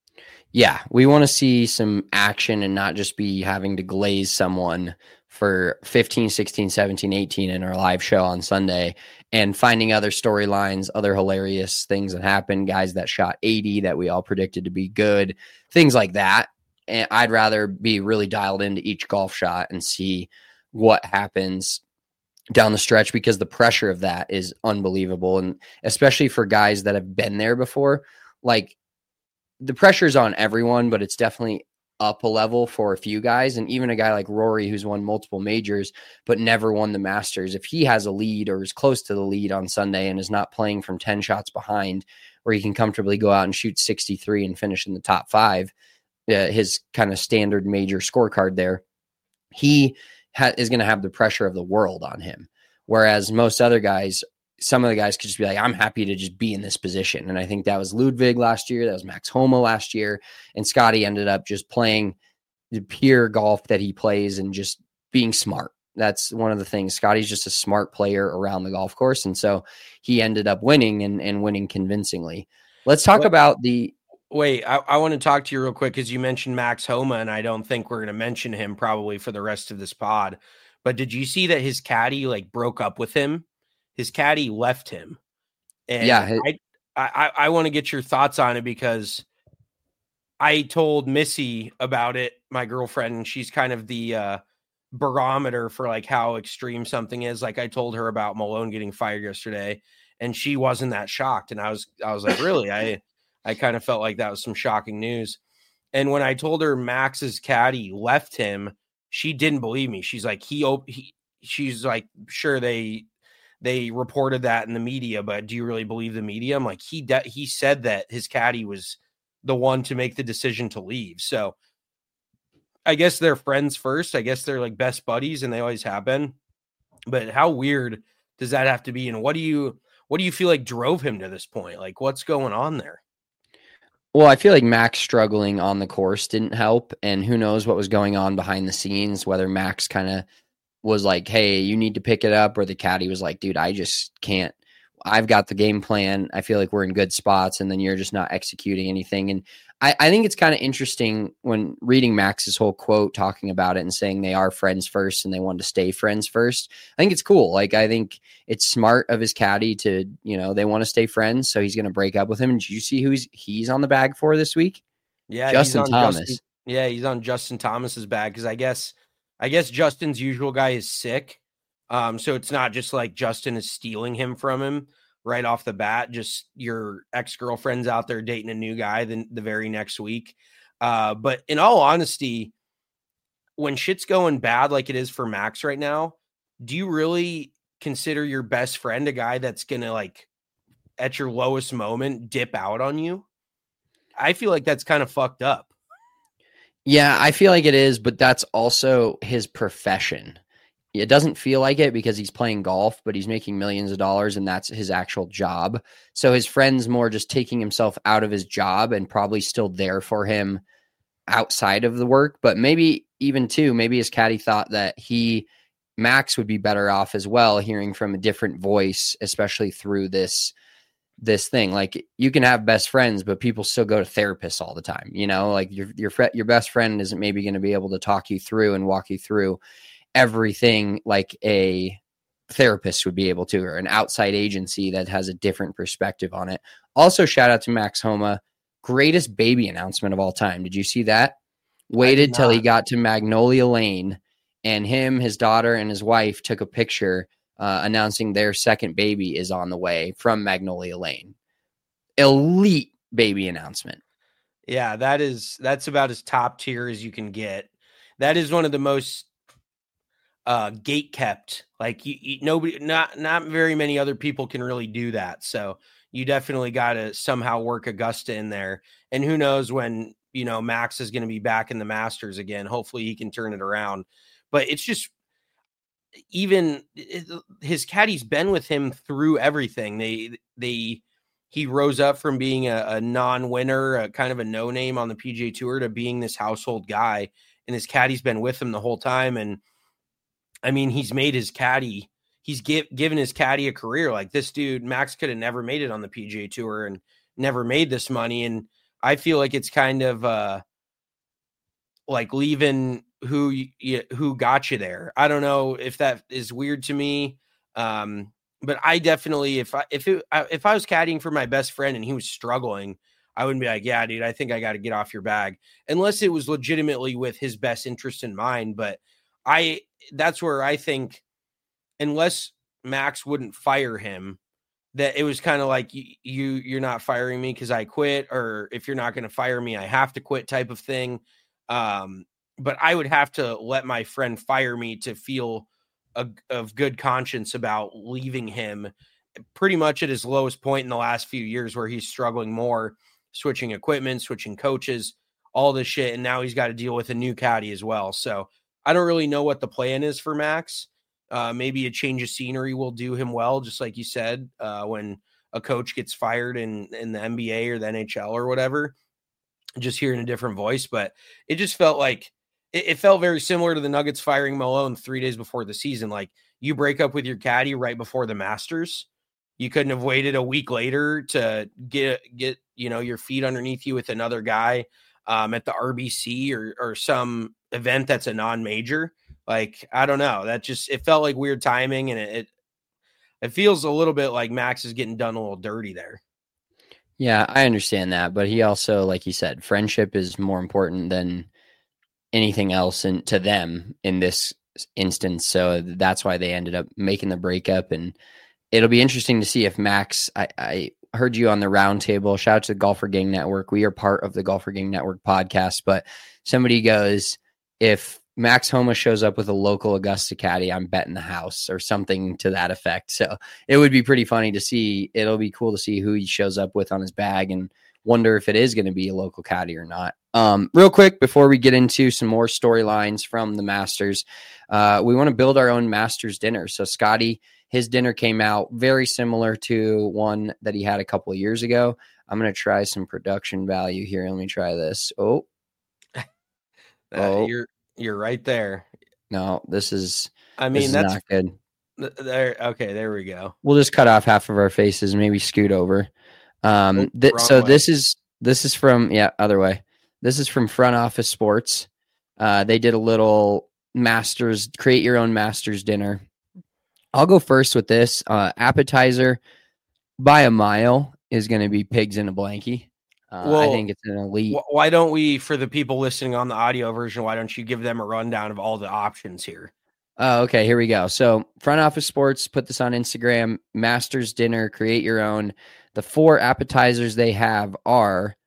Yeah, we want to see some action and not just be having to glaze someone for fifteen, sixteen, seventeen, eighteen in our live show on Sunday, and finding other storylines, other hilarious things that happen, guys that shot eighty that we all predicted to be good, things like that. And I'd rather be really dialed into each golf shot and see what happens down the stretch, because the pressure of that is unbelievable. And especially for guys that have been there before, like, the pressure's on everyone, but it's definitely up a level for a few guys. And even a guy like Rory, who's won multiple majors, but never won the Masters, if he has a lead or is close to the lead on Sunday and is not playing from ten shots behind, where he can comfortably go out and shoot sixty-three and finish in the top five, uh, his kind of standard major scorecard there, he ha- is going to have the pressure of the world on him. Whereas most other guys, some of the guys could just be like, I'm happy to just be in this position. And I think that was Ludwig last year. That was Max Homa last year. And Scotty ended up just playing the pure golf that he plays and just being smart. That's one of the things. Scotty's just a smart player around the golf course. And so he ended up winning and, and winning convincingly. Let's talk Wait, about the. Wait, I, I want to talk to you real quick because you mentioned Max Homa, and I don't think we're going to mention him probably for the rest of this pod. But did you see that his caddy like broke up with him? His caddy left him. And yeah. His, I, I, I want to get your thoughts on it because I told Missy about it, my girlfriend, and she's kind of the uh, barometer for like how extreme something is. Like I told her about Malone getting fired yesterday, and she wasn't that shocked. And I was, I was like, really? I, I kind of felt like that was some shocking news. And when I told her Max's caddy left him, she didn't believe me. She's like, he, he she's like, sure, they, they reported that in the media, but do you really believe the media? I'm like, he, de- he said that his caddy was the one to make the decision to leave. So I guess they're friends first. I guess they're like best buddies and they always have been, but how weird does that have to be? And what do you, what do you feel like drove him to this point? Like what's going on there? Well, I feel like Max struggling on the course didn't help. And who knows what was going on behind the scenes, whether Max kind of was like, hey, you need to pick it up, or the caddy was like, dude, I just can't. I've got the game plan. I feel like we're in good spots, and then you're just not executing anything. And I, I think it's kind of interesting when reading Max's whole quote talking about it and saying they are friends first and they want to stay friends first. I think it's cool. Like, I think it's smart of his caddy to, you know, they want to stay friends. So he's going to break up with him. And did you see who he's, he's on the bag for this week? Yeah. Justin he's on Thomas. Justin, yeah. He's on Justin Thomas's bag. Cause I guess, I guess Justin's usual guy is sick. Um, so it's not just like Justin is stealing him from him right off the bat, just your ex-girlfriend's out there dating a new guy then the very next week. Uh, but in all honesty, when shit's going bad like it is for Max right now, do you really consider your best friend a guy that's going to like at your lowest moment dip out on you? I feel like that's kind of fucked up. Yeah, I feel like it is, but that's also his profession. It doesn't feel like it because he's playing golf, but he's making millions of dollars and that's his actual job. So his friend's more just taking himself out of his job and probably still there for him outside of the work. But maybe even too, maybe his caddy thought that he, Max would be better off as well, hearing from a different voice, especially through this, this thing. Like you can have best friends, but people still go to therapists all the time. You know, like your, your, your best friend isn't maybe going to be able to talk you through and walk you through everything like a therapist would be able to, or an outside agency that has a different perspective on it. Also, shout out to Max Homa, greatest baby announcement of all time. Did you see that? Waited till he got to Magnolia Lane, and him, his daughter, and his wife took a picture uh, announcing their second baby is on the way from Magnolia Lane. Elite baby announcement. Yeah, that is that's about as top tier as you can get. That is one of the most uh gate kept, like you, you nobody not not very many other people can really do that, so you definitely got to somehow work Augusta in there. And who knows when, you know, Max is going to be back in the Masters again. Hopefully he can turn it around. But it's just, even it, his caddy's been with him through everything. They they he rose up from being a, a non-winner, a kind of a no-name on the P G A Tour, to being this household guy, and his caddy's been with him the whole time. And I mean, he's made his caddy, he's give, given his caddy a career. Like this dude, Max could have never made it on the P G A Tour and never made this money. And I feel like it's kind of uh, like leaving who you, who got you there. I don't know if that is weird to me, um, but I definitely, if I if it, if I was caddying for my best friend and he was struggling, I wouldn't be like, yeah, dude, I think I got to get off your bag, unless it was legitimately with his best interest in mind. But I, that's where I think, unless Max wouldn't fire him, that it was kind of like, you, you you're not firing me because I quit, or if you're not going to fire me, I have to quit type of thing. Um, but I would have to let my friend fire me to feel a, of good conscience about leaving him pretty much at his lowest point in the last few years, where he's struggling more, switching equipment, switching coaches, all this shit. And now he's got to deal with a new caddy as well. So I don't really know what the plan is for Max. Uh, maybe a change of scenery will do him well, just like you said, uh, when a coach gets fired in, in the N B A or the N H L or whatever, just hearing a different voice. But it just felt like it, it felt very similar to the Nuggets firing Malone three days before the season. Like, you break up with your caddy right before the Masters. You couldn't have waited a week later to get, get, you know, your feet underneath you with another guy um, at the R B C or, or some event that's a non-major. Like, I don't know. That just, it felt like weird timing, and it, it, it feels a little bit like Max is getting done a little dirty there. Yeah, I understand that. But he also, like you said, friendship is more important than anything else in, to them in this instance. So that's why they ended up making the breakup. And it'll be interesting to see if Max, I, I heard you on the round table. Shout out to the Golfer Gang Network. We are part of the Golfer Gang Network podcast, but somebody goes, if Max Homa shows up with a local Augusta caddy, I'm betting the house or something to that effect. So it would be pretty funny to see. It'll be cool to see who he shows up with on his bag and wonder if it is going to be a local caddy or not. Um, real quick, before we get into some more storylines from the Masters, uh, we want to build our own Masters dinner. So Scotty, his dinner came out very similar to one that he had a couple of years ago. I'm going to try some production value here. Let me try this. Oh, uh, oh. you're, You're right there. No, this is, I mean, this is that's not good. There. Okay. There we go. We'll just cut off half of our faces, maybe scoot over. Um, Oh, th- wrong so way. this is, this is from, yeah, other way. This is from Front Office Sports. Uh, they did a little Masters, create your own Masters dinner. I'll go first with this. Uh, appetizer by a mile is going to be pigs in a blankie. Uh, I Well, think it's an elite. Wh- Why don't we, for the people listening on the audio version, why don't you give them a rundown of all the options here? Oh, okay, here we go. So Front Office Sports put this on Instagram. Masters dinner, create your own. The four appetizers they have are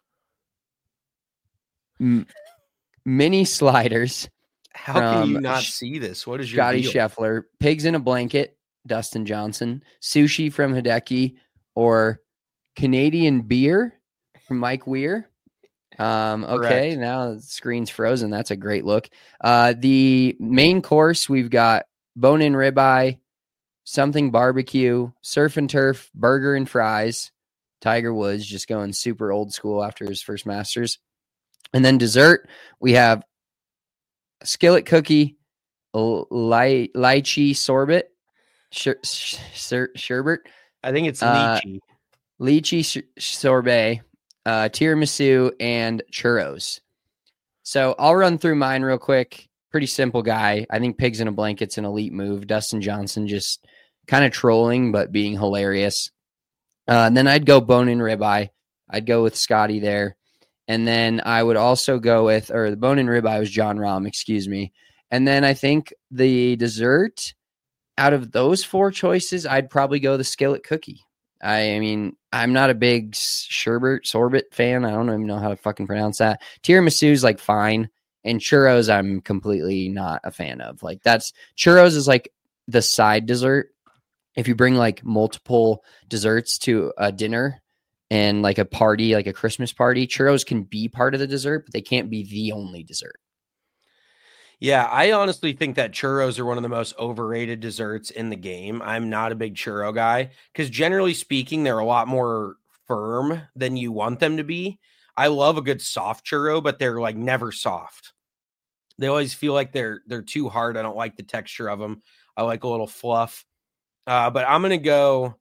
m- mini sliders. How can you From not Sh- see this? What is your Scotty deal? Scheffler, pigs in a blanket, Dustin Johnson, sushi from Hideki, or Canadian beer from Mike Weir. Um, okay, Correct. now the screen's frozen. That's a great look. Uh, the main course, we've got bone-in ribeye, something barbecue, surf and turf, burger and fries. Tiger Woods just going super old school after his first Masters. And then dessert, we have a skillet cookie, l- ly- lychee sorbet, sher- sh- sher- sherbet, I think it's Uh, lychee. lychee sh- sorbet, uh, tiramisu, and churros. So I'll run through mine real quick. Pretty simple guy. I think pigs in a blanket's an elite move. Dustin Johnson just kind of trolling, but being hilarious. Uh, and then I'd go bone-in ribeye. I'd go with Scotty there. And then I would also go with, or the bone-in ribeye was John Rahm, excuse me. And then I think the dessert, out of those four choices, I'd probably go the skillet cookie. I, I mean, I'm not a big sherbet sorbet fan. I don't even know how to fucking pronounce that. Tiramisu's like fine, and churros I'm completely not a fan of. Like that's churros is like the side dessert. If you bring like multiple desserts to a dinner and like a party, like a Christmas party, churros can be part of the dessert, but they can't be the only dessert. Yeah, I honestly think that churros are one of the most overrated desserts in the game. I'm not a big churro guy because generally speaking, they're a lot more firm than you want them to be. I love a good soft churro, but they're like never soft. They always feel like they're they're too hard. I don't like the texture of them. I like a little fluff. Uh, but I'm gonna go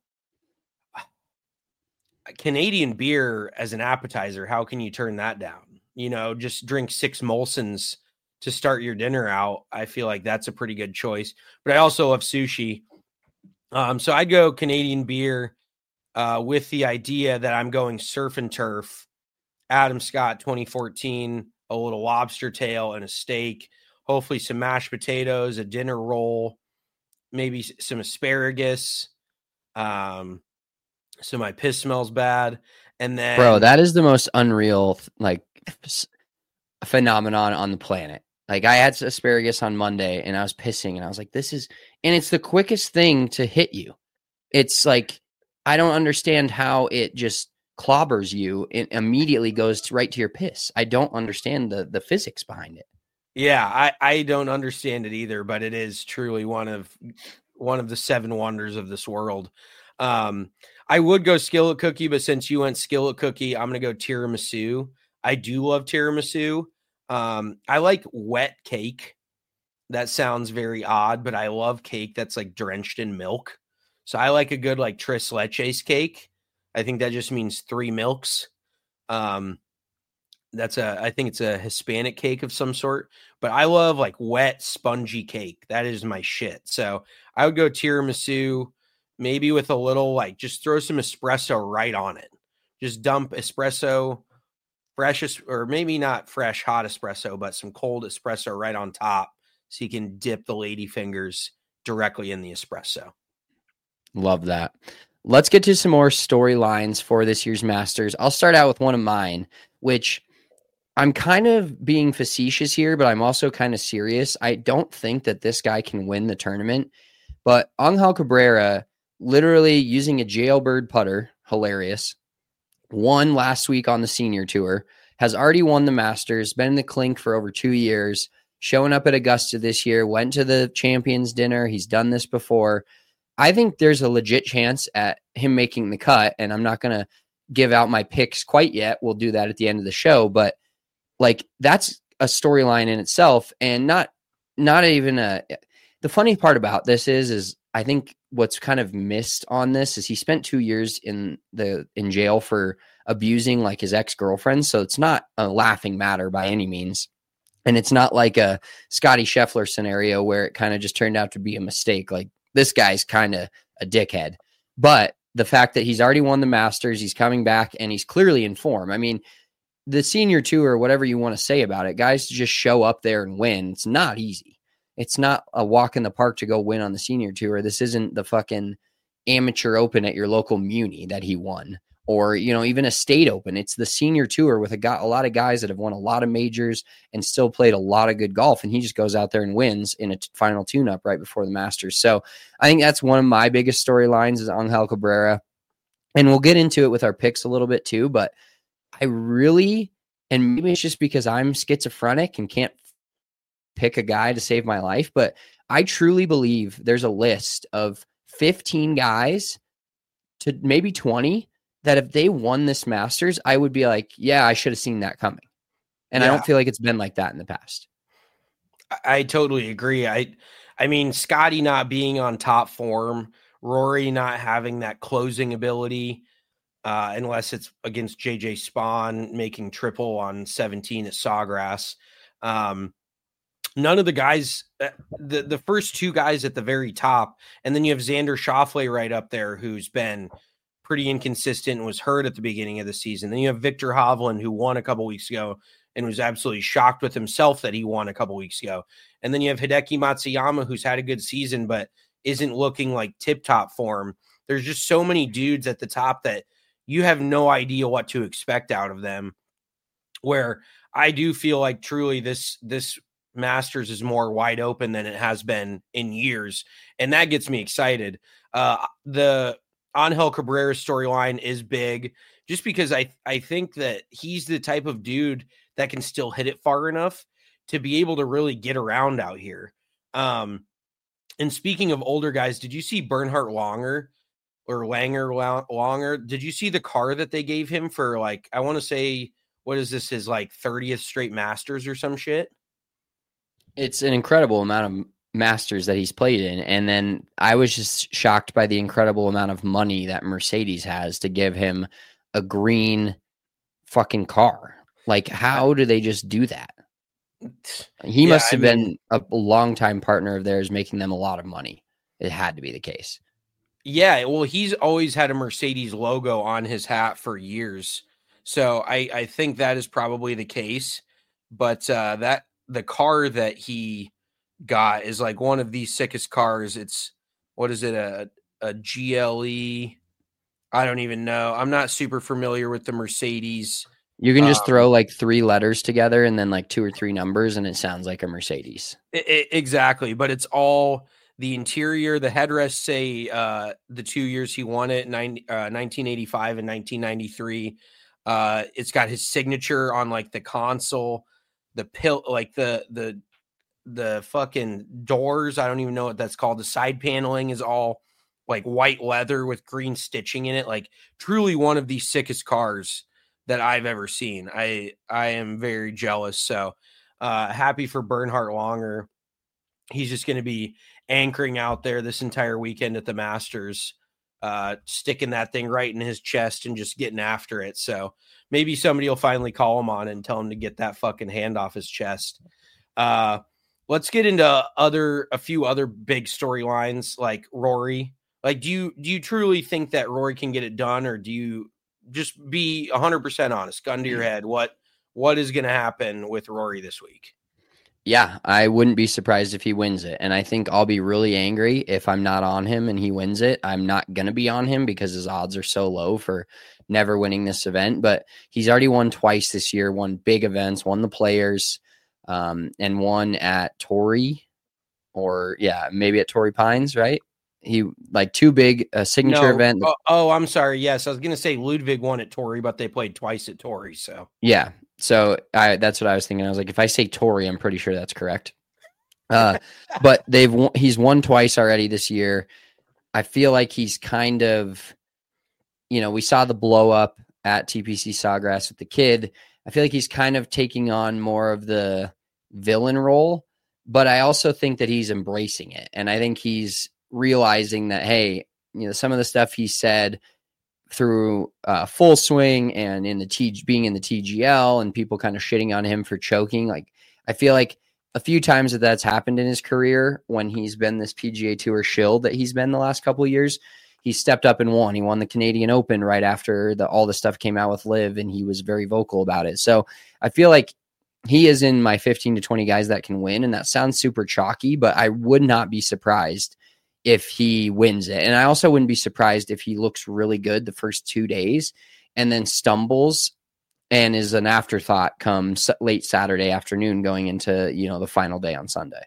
Canadian beer as an appetizer. How can you turn that down? You know, just drink six Molsons to start your dinner out. I feel like that's a pretty good choice, but I also love sushi. Um, so I'd go Canadian beer uh, with the idea that I'm going surf and turf, Adam Scott twenty fourteen, a little lobster tail and a steak, hopefully some mashed potatoes, a dinner roll, maybe s- some asparagus. Um, so my piss smells bad. And then Bro, that is the most unreal like s- phenomenon on the planet. Like I had asparagus on Monday and I was pissing and I was like, this is, and it's the quickest thing to hit you. It's like, I don't understand how it just clobbers you and immediately goes to, right to your piss. I don't understand the the physics behind it. Yeah, I, I don't understand it either, but it is truly one of one of the seven wonders of this world. Um, I would go skillet cookie, but since you went skillet cookie, I'm gonna go tiramisu. I do love tiramisu. Um, I like wet cake. That sounds very odd, but I love cake that's like drenched in milk. So I like a good like tres leches cake. I think that just means three milks. Um, that's a, I think it's a Hispanic cake of some sort, but I love like wet, spongy cake. That is my shit. So I would go tiramisu, maybe with a little, like, just throw some espresso right on it. Just dump espresso, fresh, or maybe not fresh, hot espresso, but some cold espresso right on top. So you can dip the lady fingers directly in the espresso. Love that. Let's get to some more storylines for this year's Masters. I'll start out with one of mine, which I'm kind of being facetious here, but I'm also kind of serious. I don't think that this guy can win the tournament, but Angel Cabrera, literally using a jailbird putter, hilarious, won last week on the senior tour, has already won the Masters, been in the clink for over two years, showing up at Augusta this year, went to the Champions Dinner. He's done this before. I think there's a legit chance at him making the cut, and I'm not going to give out my picks quite yet. We'll do that at the end of the show, but like that's a storyline in itself, and not not even a. The funny part about this is, is I think what's kind of missed on this is he spent two years in the in jail for abusing like his ex-girlfriend, so it's not a laughing matter by any means. And it's not like a Scotty Scheffler scenario where it kind of just turned out to be a mistake. Like, this guy's kind of a dickhead. But the fact that he's already won the Masters, he's coming back, and he's clearly in form. I mean, the senior tour, whatever you want to say about it, guys just show up there and win. It's not easy. It's not a walk in the park to go win on the senior tour. This isn't the fucking amateur open at your local Muni that he won, or, you know, even a state open. It's the senior tour with a, guy, a lot of guys that have won a lot of majors and still played a lot of good golf. And he just goes out there and wins in a t- final tune-up right before the Masters. So I think that's one of my biggest storylines is Angel Cabrera. And we'll get into it with our picks a little bit too, but I really, and maybe it's just because I'm schizophrenic and can't pick a guy to save my life, but I truly believe there's a list of fifteen guys to maybe twenty that if they won this Masters, I would be like, yeah, I should have seen that coming. And yeah. I don't feel like it's been like that in the past. I, I totally agree. I, I mean, Scotty not being on top form, Rory not having that closing ability, uh, unless it's against J J Spawn making triple on seventeen at Sawgrass. Um, none of the guys, the, the first two guys at the very top, and then you have Xander Schauffele right up there, who's been pretty inconsistent and was hurt at the beginning of the season. Then you have Victor Hovland, who won a couple weeks ago and was absolutely shocked with himself that he won a couple weeks ago. And then you have Hideki Matsuyama, who's had a good season, but isn't looking like tip-top form. There's just so many dudes at the top that you have no idea what to expect out of them, where I do feel like truly this, this Masters is more wide open than it has been in years. And that gets me excited. Uh, the Angel Cabrera storyline is big just because I, I think that he's the type of dude that can still hit it far enough to be able to really get around out here. Um, and speaking of older guys, did you see Bernhard Langer or Langer Langer? Did you see the car that they gave him for, like, I want to say, what is this, his like thirtieth straight Masters or some shit? It's an incredible amount of Masters that he's played in. And then I was just shocked by the incredible amount of money that Mercedes has to give him a green fucking car. Like, how do they just do that? He yeah, must have I mean, been a longtime partner of theirs, making them a lot of money. It had to be the case. Yeah, well, he's always had a Mercedes logo on his hat for years. So I, I think that is probably the case. But uh, that the car that he got is like one of the sickest cars. It's, what is it, a, a G L E? I don't even know. I'm not super familiar with the Mercedes. You can just um, throw like three letters together and then like two or three numbers, and it sounds like a Mercedes. It, it, exactly. But it's all the interior. The headrests say uh, the two years he won it, nine, uh, nineteen eighty-five and nineteen ninety-three. Uh, it's got his signature on like the console. the pill, like the, the, the fucking doors. I don't even know what that's called. The side paneling is all like white leather with green stitching in it. Like truly one of the sickest cars that I've ever seen. I, I am very jealous. So uh, happy for Bernhard Langer. He's just going to be anchoring out there this entire weekend at the Masters, uh, sticking that thing right in his chest and just getting after it. So maybe somebody will finally call him on and tell him to get that fucking hand off his chest. Uh, let's get into other, a few other big storylines like Rory. Like, do you, do you truly think that Rory can get it done, or do you just be a hundred percent honest, gun to your head? What, what is going to happen with Rory this week? Yeah, I wouldn't be surprised if he wins it. And I think I'll be really angry if I'm not on him and he wins it. I'm not going to be on him because his odds are so low for never winning this event. But he's already won twice this year, won big events, won the Players, um, and won at Torrey, or yeah, maybe at Torrey Pines, right? He like two big uh, signature no. event. Oh, oh, I'm sorry. Yes, I was going to say Ludwig won at Torrey, but they played twice at Torrey. So yeah. So I, that's what I was thinking. I was like, if I say Torrey, I'm pretty sure that's correct. Uh, but they've won, he's won twice already this year. I feel like he's kind of, you know, we saw the blow up at T P C Sawgrass with the kid. I feel like he's kind of taking on more of the villain role, but I also think that he's embracing it. And I think he's realizing that, hey, you know, some of the stuff he said through uh, Full Swing and in the T being in the T G L and people kind of shitting on him for choking. Like, I feel like a few times that that's happened in his career when he's been this P G A Tour shill that he's been the last couple of years, he stepped up and won. He won the Canadian Open right after the, all the stuff came out with Liv, and he was very vocal about it. So I feel like he is in my fifteen to twenty guys that can win. And that sounds super chalky, but I would not be surprised if he wins it. And I also wouldn't be surprised if he looks really good the first two days and then stumbles and is an afterthought come late Saturday afternoon going into, you know, the final day on Sunday.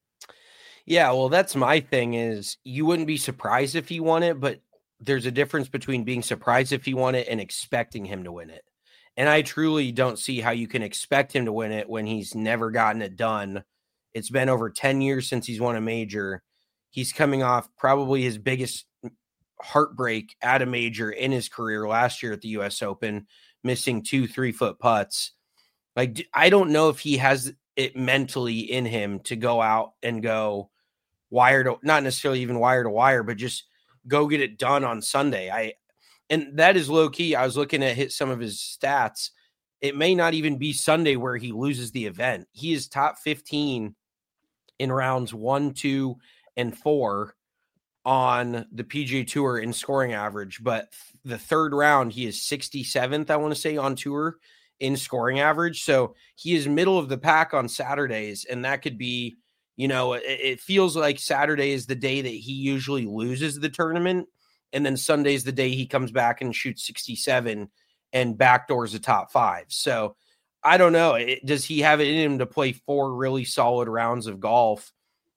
Yeah, well, that's my thing is you wouldn't be surprised if he won it, but there's a difference between being surprised if he won it and expecting him to win it. And I truly don't see how you can expect him to win it when he's never gotten it done. It's been over ten years since he's won a major. He's coming off probably his biggest heartbreak at a major in his career last year at the U S Open, missing two three-foot putts. Like, I don't know if he has it mentally in him to go out and go wire to, not necessarily even wire to wire, but just go get it done on Sunday. I, and that is low key. I was looking at hit some of his stats. It may not even be Sunday where he loses the event. He is top fifteen in rounds one, two, and four on the P G A Tour in scoring average. But the third round, he is sixty-seventh, I want to say, on tour in scoring average. So he is middle of the pack on Saturdays. And that could be, you know, it, it feels like Saturday is the day that he usually loses the tournament. And then Sunday is the day he comes back and shoots sixty-seven and backdoors the top five. So I don't know. It, does he have it in him to play four really solid rounds of golf?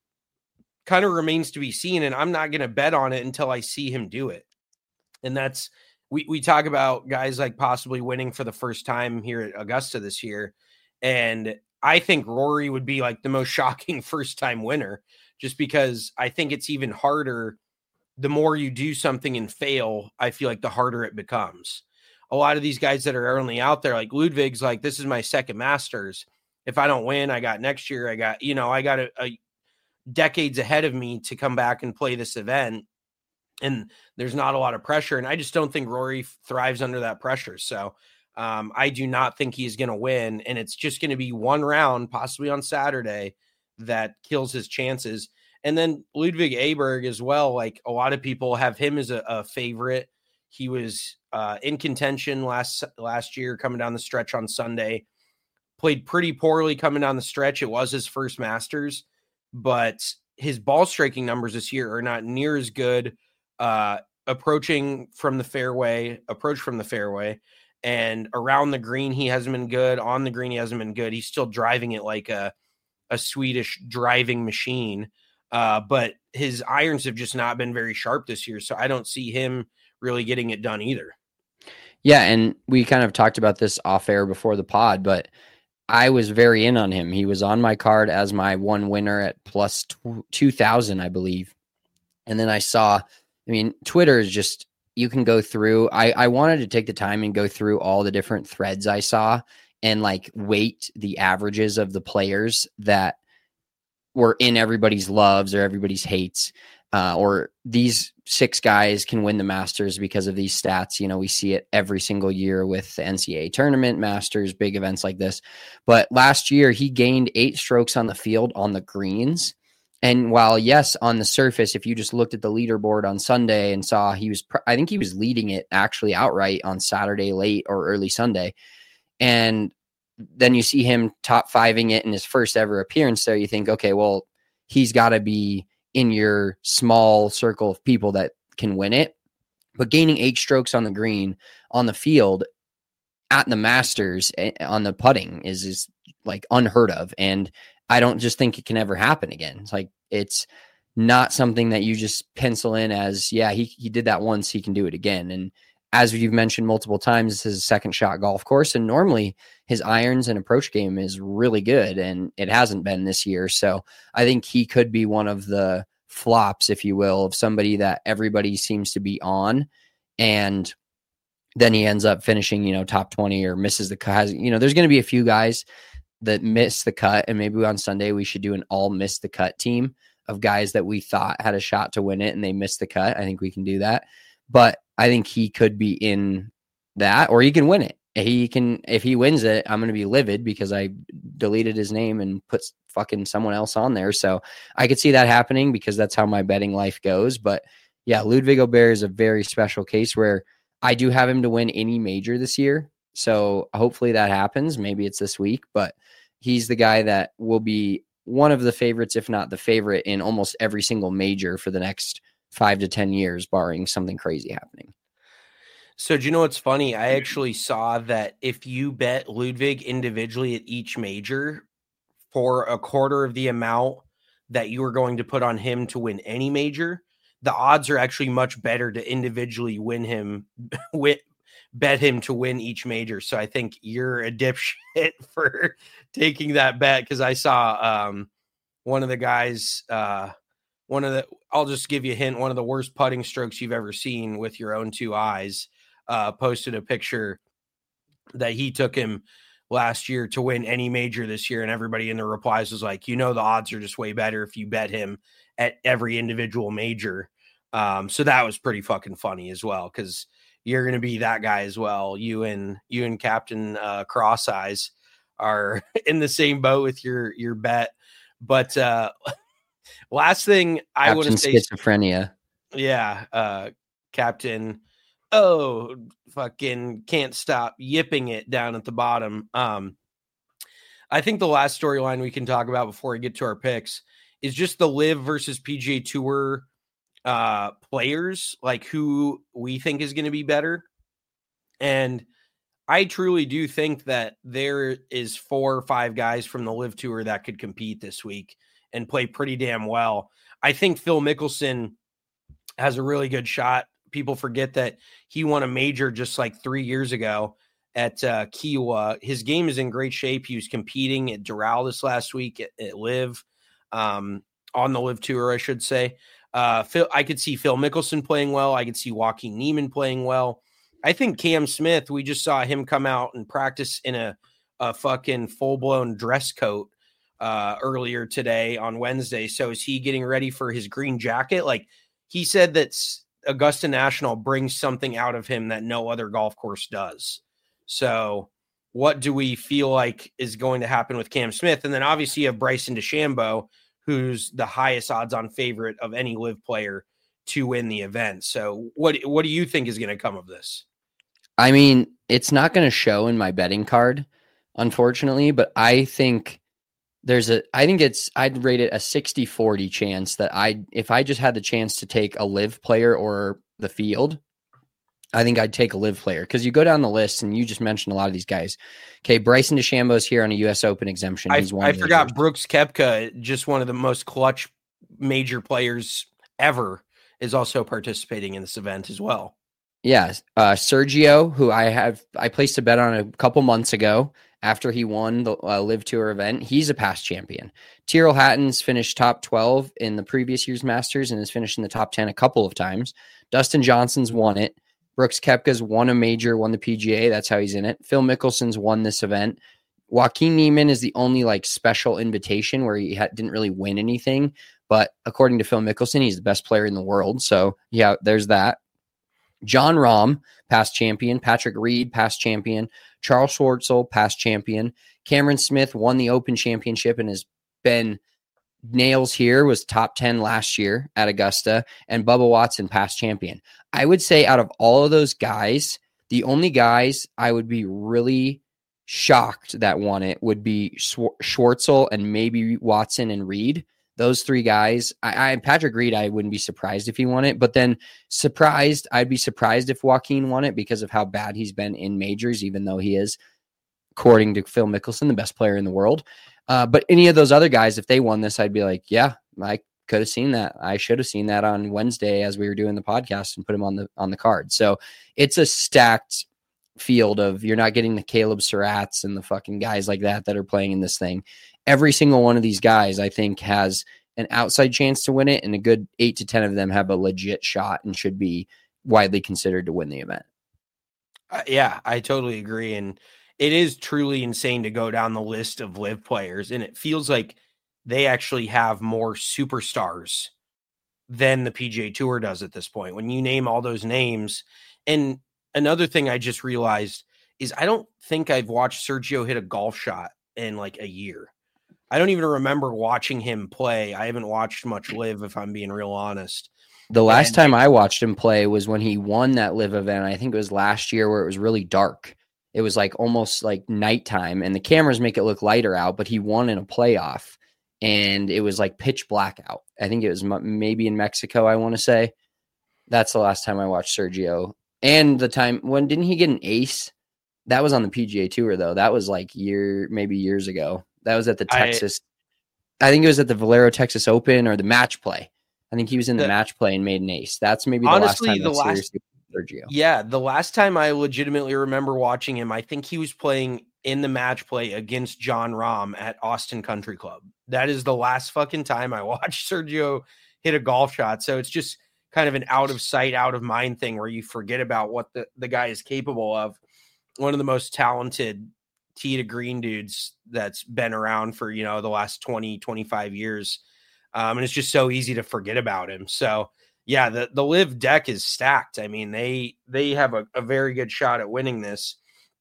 Kind of remains to be seen, and I'm not going to bet on it until I see him do it. And that's, we, we talk about guys like possibly winning for the first time here at Augusta this year. And I think Rory would be like the most shocking first time winner, just because I think it's even harder. The more you do something and fail, I feel like the harder it becomes. A lot of these guys that are only out there, like Ludwig's like, this is my second Masters. If I don't win, I got next year. I got, you know, I got a, a decades ahead of me to come back and play this event. And there's not a lot of pressure. And I just don't think Rory thrives under that pressure. So um, I do not think he's going to win. And it's just going to be one round, possibly on Saturday, that kills his chances. And then Ludwig Aberg as well. Like, a lot of people have him as a, a favorite. He was uh, in contention last, last year, coming down the stretch on Sunday, played pretty poorly coming down the stretch. It was his first Masters, but his ball striking numbers this year are not near as good. Uh, approaching from the fairway, approach from the fairway, and around the green, he hasn't been good. On the green, he hasn't been good. He's still driving it like a, a Swedish driving machine. Uh, but his irons have just not been very sharp this year. So I don't see him really getting it done either. Yeah. And we kind of talked about this off air before the pod, but I was very in on him. He was on my card as my one winner at plus two thousand, I believe. And then I saw, I mean, Twitter is just, you can go through. I, I wanted to take the time and go through all the different threads I saw and like weight the averages of the players that were in everybody's loves or everybody's hates. Uh, or these six guys can win the Masters because of these stats. You know, we see it every single year with the N C double A tournament, Masters, big events like this. But last year, he gained eight strokes on the field on the greens. And while, yes, on the surface, if you just looked at the leaderboard on Sunday and saw he was, I think he was leading it actually outright on Saturday late or early Sunday. And then you see him top fiving it in his first ever appearance there. You think, okay, well, he's got to be in your small circle of people that can win it. But gaining eight strokes on the green on the field at the Masters on the putting is, is like unheard of. And I don't just think it can ever happen again. It's like, it's not something that you just pencil in as, yeah, he, he did that once, he can do it again. And as you've mentioned multiple times, this is a second shot golf course. And normally his irons and approach game is really good. And it hasn't been this year. So I think he could be one of the flops, if you will, of somebody that everybody seems to be on. And then he ends up finishing, you know, top twenty or misses the cut. You know, there's going to be a few guys that miss the cut. And maybe on Sunday we should do an all miss the cut team of guys that we thought had a shot to win it and they missed the cut. I think we can do that. But I think he could be in that, or he can win it. He can, if he wins it, I'm going to be livid because I deleted his name and put fucking someone else on there. So I could see that happening because that's how my betting life goes. But yeah, Ludwig Aubert is a very special case where I do have him to win any major this year. So hopefully that happens. Maybe it's this week, but he's the guy that will be one of the favorites, if not the favorite, in almost every single major for the next five to ten years, barring something crazy happening. So do you know what's funny? I actually saw that if you bet Ludwig individually at each major for a quarter of the amount that you were going to put on him to win any major, the odds are actually much better to individually win him, win, bet him to win each major. So I think you're a dipshit for taking that bet because I saw um, one of the guys, uh, one of the, I'll just give you a hint, one of the worst putting strokes you've ever seen with your own two eyes, uh, posted a picture that he took him last year to win any major this year. And everybody in the replies was like, you know, the odds are just way better if you bet him at every individual major. Um, so that was pretty fucking funny as well, because you're going to be that guy as well. You and you and Captain uh, Cross Eyes are in the same boat with your your bet. But uh, last thing I want to say, schizophrenia. Yeah, uh, Captain. Oh, fucking can't stop yipping it down at the bottom. Um, I think the last storyline we can talk about before we get to our picks is just the Live versus P G A Tour uh, players, like who we think is going to be better. And I truly do think that there is four or five guys from the Live Tour that could compete this week and play pretty damn well. I think Phil Mickelson has a really good shot. People forget that he won a major just like three years ago at uh, Kiawah. His game is in great shape. He was competing at Doral this last week at, at Live, um, on the Live Tour, I should say. Uh, Phil, I could see Phil Mickelson playing well. I could see Joaquin Niemann playing well. I think Cam Smith, we just saw him come out and practice in a, a fucking full-blown dress coat uh, earlier today on Wednesday. So is he getting ready for his green jacket? Like he said that Augusta National brings something out of him that no other golf course does. So what do we feel like is going to happen with Cam Smith? And then obviously you have Bryson DeChambeau, who's the highest odds on favorite of any Live player to win the event. So what, what do you think is going to come of this? I mean, it's not going to show in my betting card, unfortunately, but I think there's a, I think it's, I'd rate it a sixty forty chance that I, if I just had the chance to take a Live player or the field, I think I'd take a Live player. Cause you go down the list and you just mentioned a lot of these guys. Okay. Bryson DeChambeau is here on a U S Open exemption. He's I, one I of forgot those. Brooks Koepka, just one of the most clutch major players ever, is also participating in this event as well. Yeah. Uh, Sergio, who I have, I placed a bet on a couple months ago after he won the uh, Live Tour event. He's a past champion. Tyrrell Hatton's finished top twelve in the previous year's Masters and has finished in the top ten a couple of times. Dustin Johnson's won it. Brooks Koepka's won a major, won the P G A. That's how he's in it. Phil Mickelson's won this event. Joaquin Niemann is the only like special invitation where he ha- didn't really win anything. But according to Phil Mickelson, he's the best player in the world. So yeah, there's that. John Rahm, past champion. Patrick Reed, past champion. Charles Schwartzel, past champion. Cameron Smith won the Open Championship and has been nails here, was top ten last year at Augusta. And Bubba Watson, past champion. I would say out of all of those guys, the only guys I would be really shocked that won it would be Schwartzel and maybe Watson and Reed. Those three guys, I, I Patrick Reed, I wouldn't be surprised if he won it, but then surprised, I'd be surprised if Joaquin won it because of how bad he's been in majors, even though he is, according to Phil Mickelson, the best player in the world. Uh, but any of those other guys, if they won this, I'd be like, yeah, I could have seen that. I should have seen that on Wednesday as we were doing the podcast and put him on the on the card. So it's a stacked field of, you're not getting the Caleb Surratts and the fucking guys like that that are playing in this thing. Every single one of these guys, I think, has an outside chance to win it, and a good eight to ten of them have a legit shot and should be widely considered to win the event. Uh, yeah, I totally agree. And it is truly insane to go down the list of live players, and it feels like they actually have more superstars than the P G A Tour does at this point. When you name all those names, and another thing I just realized is I don't think I've watched Sergio hit a golf shot in like a year. I don't even remember watching him play. I haven't watched much live, if I'm being real honest. The last and, time I watched him play was when he won that live event. I think it was last year where it was really dark. It was like almost like nighttime, and the cameras make it look lighter out, but he won in a playoff, and it was like pitch black out. I think it was m- maybe in Mexico, I want to say. That's the last time I watched Sergio. And the time when didn't he get an ace? That was on the P G A Tour, though. That was like year, maybe years ago. That was at the Texas. I, I think it was at the Valero Texas Open or the match play. I think he was in the, the match play and made an ace. That's maybe the honestly, last time the last, Sergio. Yeah, the last time I legitimately remember watching him, I think he was playing in the match play against John Rahm at Austin Country Club. That is the last fucking time I watched Sergio hit a golf shot. So it's just kind of an out of sight, out of mind thing where you forget about what the, the guy is capable of. One of the most talented tee to green dudes that's been around for, you know, the last twenty, twenty-five years. Um, and it's just so easy to forget about him. So yeah, the, the live deck is stacked. I mean, they, they have a, a very good shot at winning this.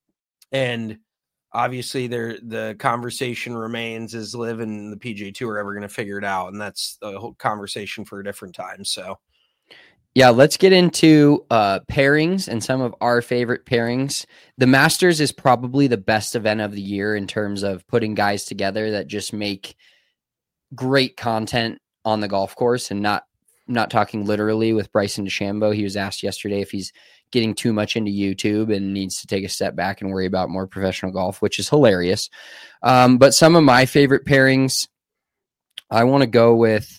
And obviously there, the conversation remains, is live and the P G A Tour ever going to figure it out? And that's the whole conversation for a different time. So yeah, let's get into uh, pairings and some of our favorite pairings. The Masters is probably the best event of the year in terms of putting guys together that just make great content on the golf course, and not not talking literally with Bryson DeChambeau. He was asked yesterday if he's getting too much into YouTube and needs to take a step back and worry about more professional golf, which is hilarious. Um, but some of my favorite pairings, I want to go with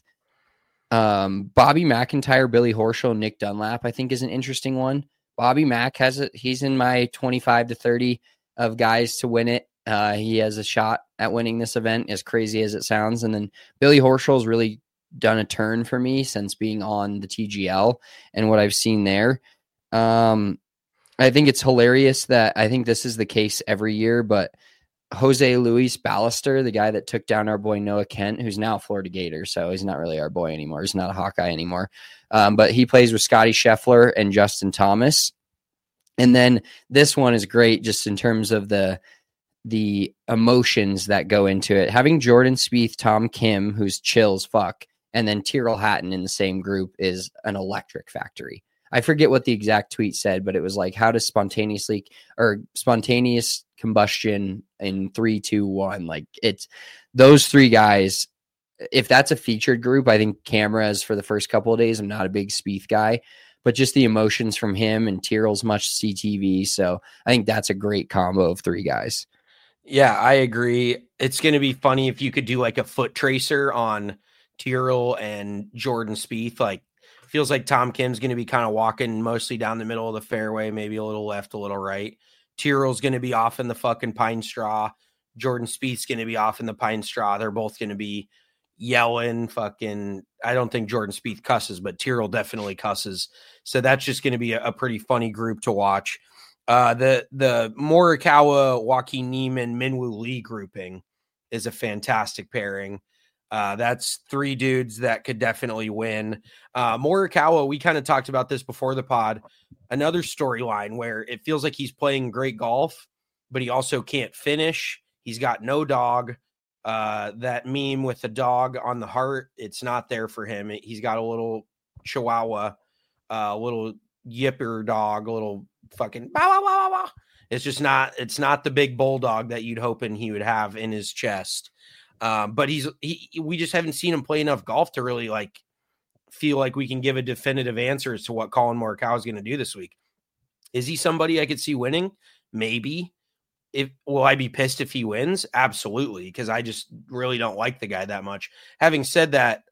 Um, Bobby McIntyre, Billy Horschel, Nick Dunlap, I think is an interesting one. Bobby Mack has it. He's in my twenty-five to thirty of guys to win it. Uh, he has a shot at winning this event, as crazy as it sounds. And then Billy Horschel's really done a turn for me since being on the T G L and what I've seen there. Um, I think it's hilarious that I think this is the case every year, but Jose Luis Ballester, the guy that took down our boy Noah Kent, who's now a Florida Gator, so he's not really our boy anymore. He's not a Hawkeye anymore. Um, but he plays with Scotty Scheffler and Justin Thomas. And then this one is great just in terms of the the emotions that go into it. Having Jordan Spieth, Tom Kim, who's chill as fuck, and then Tyrrell Hatton in the same group is an electric factory. I forget what the exact tweet said, but it was like, how does spontaneously or spontaneous combustion in three, two, one, like it's those three guys. If that's a featured group, I think cameras for the first couple of days. I'm not a big Spieth guy, but just the emotions from him and Tyrrell's much C T V. So I think that's a great combo of three guys. Yeah, I agree. It's going to be funny if you could do like a foot tracer on Tyrrell and Jordan Spieth. Like, feels like Tom Kim's going to be kind of walking mostly down the middle of the fairway, maybe a little left, a little right. Tyrrell's going to be off in the fucking pine straw. Jordan Spieth's going to be off in the pine straw. They're both going to be yelling fucking. I don't think Jordan Spieth cusses, but Tyrrell definitely cusses. So that's just going to be a, a pretty funny group to watch. Uh, the the Morikawa, Joaquin Niemann, Minwoo Lee grouping is a fantastic pairing. Uh, that's three dudes that could definitely win. Uh, Morikawa, we kind of talked about this before the pod. Another storyline where it feels like he's playing great golf, but he also can't finish. He's got no dog. Uh, that meme with the dog on the heart, it's not there for him. He's got a little chihuahua, a uh, little yipper dog, a little fucking bah, bah, bah, bah, bah. It's just not, it's not the big bulldog that you'd hoping he would have in his chest. Um, but he's, he, we just haven't seen him play enough golf to really like feel like we can give a definitive answer as to what Colin Morikawa is going to do this week. Is he somebody I could see winning? Maybe. If will I be pissed if he wins? Absolutely. Because I just really don't like the guy that much. Having said that,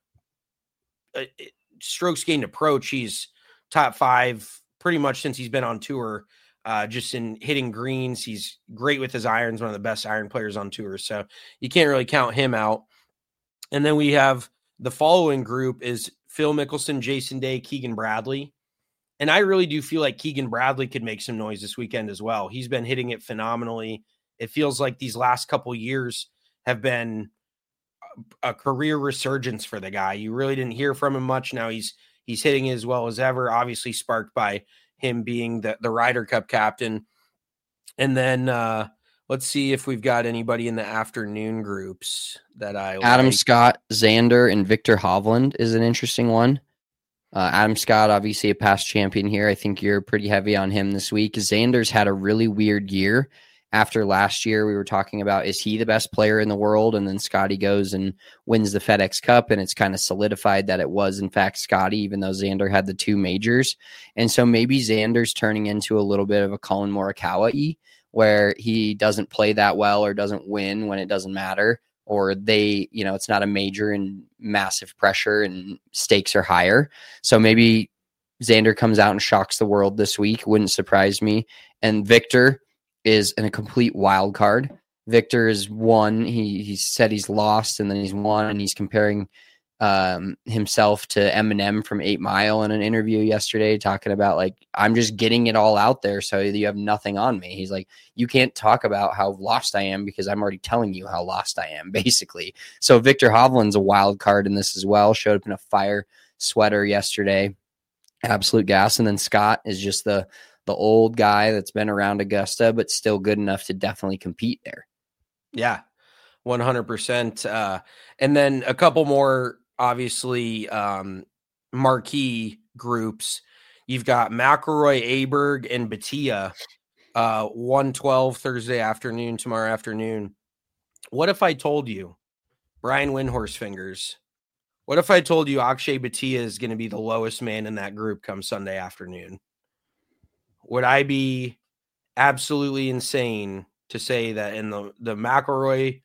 uh, strokes gained approach, he's top five pretty much since he's been on tour. Uh, just in hitting greens, he's great with his irons, one of the best iron players on tour. So you can't really count him out. And then we have the following group is Phil Mickelson, Jason Day, Keegan Bradley. And I really do feel like Keegan Bradley could make some noise this weekend as well. He's been hitting it phenomenally. It feels like these last couple years have been a career resurgence for the guy. You really didn't hear from him much. Now he's he's hitting as well as ever, obviously sparked by him being the, the Ryder Cup captain. And then uh, let's see if we've got anybody in the afternoon groups that I Adam like. Scott, Xander, and Victor Hovland is an interesting one. Uh, Adam Scott, obviously a past champion here. I think you're pretty heavy on him this week. Xander's had a really weird year. After last year, we were talking about, is he the best player in the world? And then Scotty goes and wins the FedEx Cup, and it's kind of solidified that it was, in fact, Scotty, even though Xander had the two majors. And so maybe Xander's turning into a little bit of a Colin Morikawa-y, where he doesn't play that well or doesn't win when it doesn't matter, or they, you know, it's not a major and massive pressure and stakes are higher. So maybe Xander comes out and shocks the world this week. Wouldn't surprise me. And Victor is in a complete wild card. Victor is one. He he said he's lost and then he's won, and he's comparing um, himself to Eminem from Eight Mile in an interview yesterday, talking about like, I'm just getting it all out there so you have nothing on me. He's like, you can't talk about how lost I am because I'm already telling you how lost I am, basically. So Victor Hovland's a wild card in this as well. Showed up in a fire sweater yesterday. Absolute gas. And then Scott is just the the old guy that's been around Augusta, but still good enough to definitely compete there. Yeah, one hundred percent. Uh, and then a couple more, obviously, um, marquee groups. You've got McIlroy, Aberg, and Batia, uh, one twelve Thursday afternoon, tomorrow afternoon. What if I told you, Brian Windhorse Fingers, what if I told you Akshay Batia is going to be the lowest man in that group come Sunday afternoon? Would I be absolutely insane to say that in the, the McIlroy,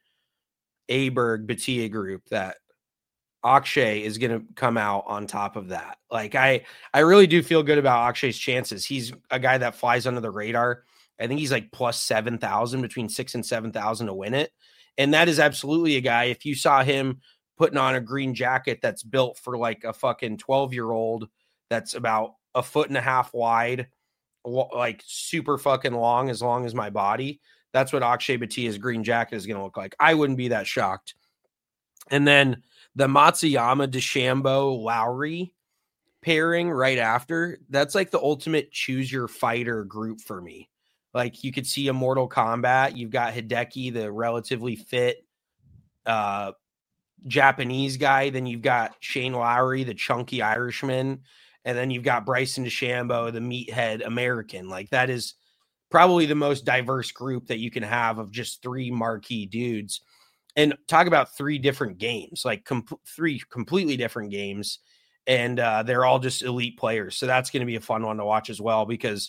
Aberg, Batia group that Akshay is going to come out on top of that? Like, I, I really do feel good about Akshay's chances. He's a guy that flies under the radar. I think he's like plus seven thousand, between six and seven thousand to win it. And that is absolutely a guy. If you saw him putting on a green jacket that's built for like a fucking twelve year old, that's about a foot and a half wide, like super fucking long, as long as my body. That's what Akshay Batia's green jacket is going to look like. I wouldn't be that shocked. And then the Matsuyama, DeChambeau, Lowry pairing right after, that's like the ultimate choose your fighter group for me. Like, you could see a Mortal Kombat. You've got Hideki, the relatively fit uh, Japanese guy. Then you've got Shane Lowry, the chunky Irishman. And then you've got Bryson DeChambeau, the meathead American. Like, that is probably the most diverse group that you can have of just three marquee dudes. And talk about three different games, like com- three completely different games. And uh, they're all just elite players. So that's going to be a fun one to watch as well, because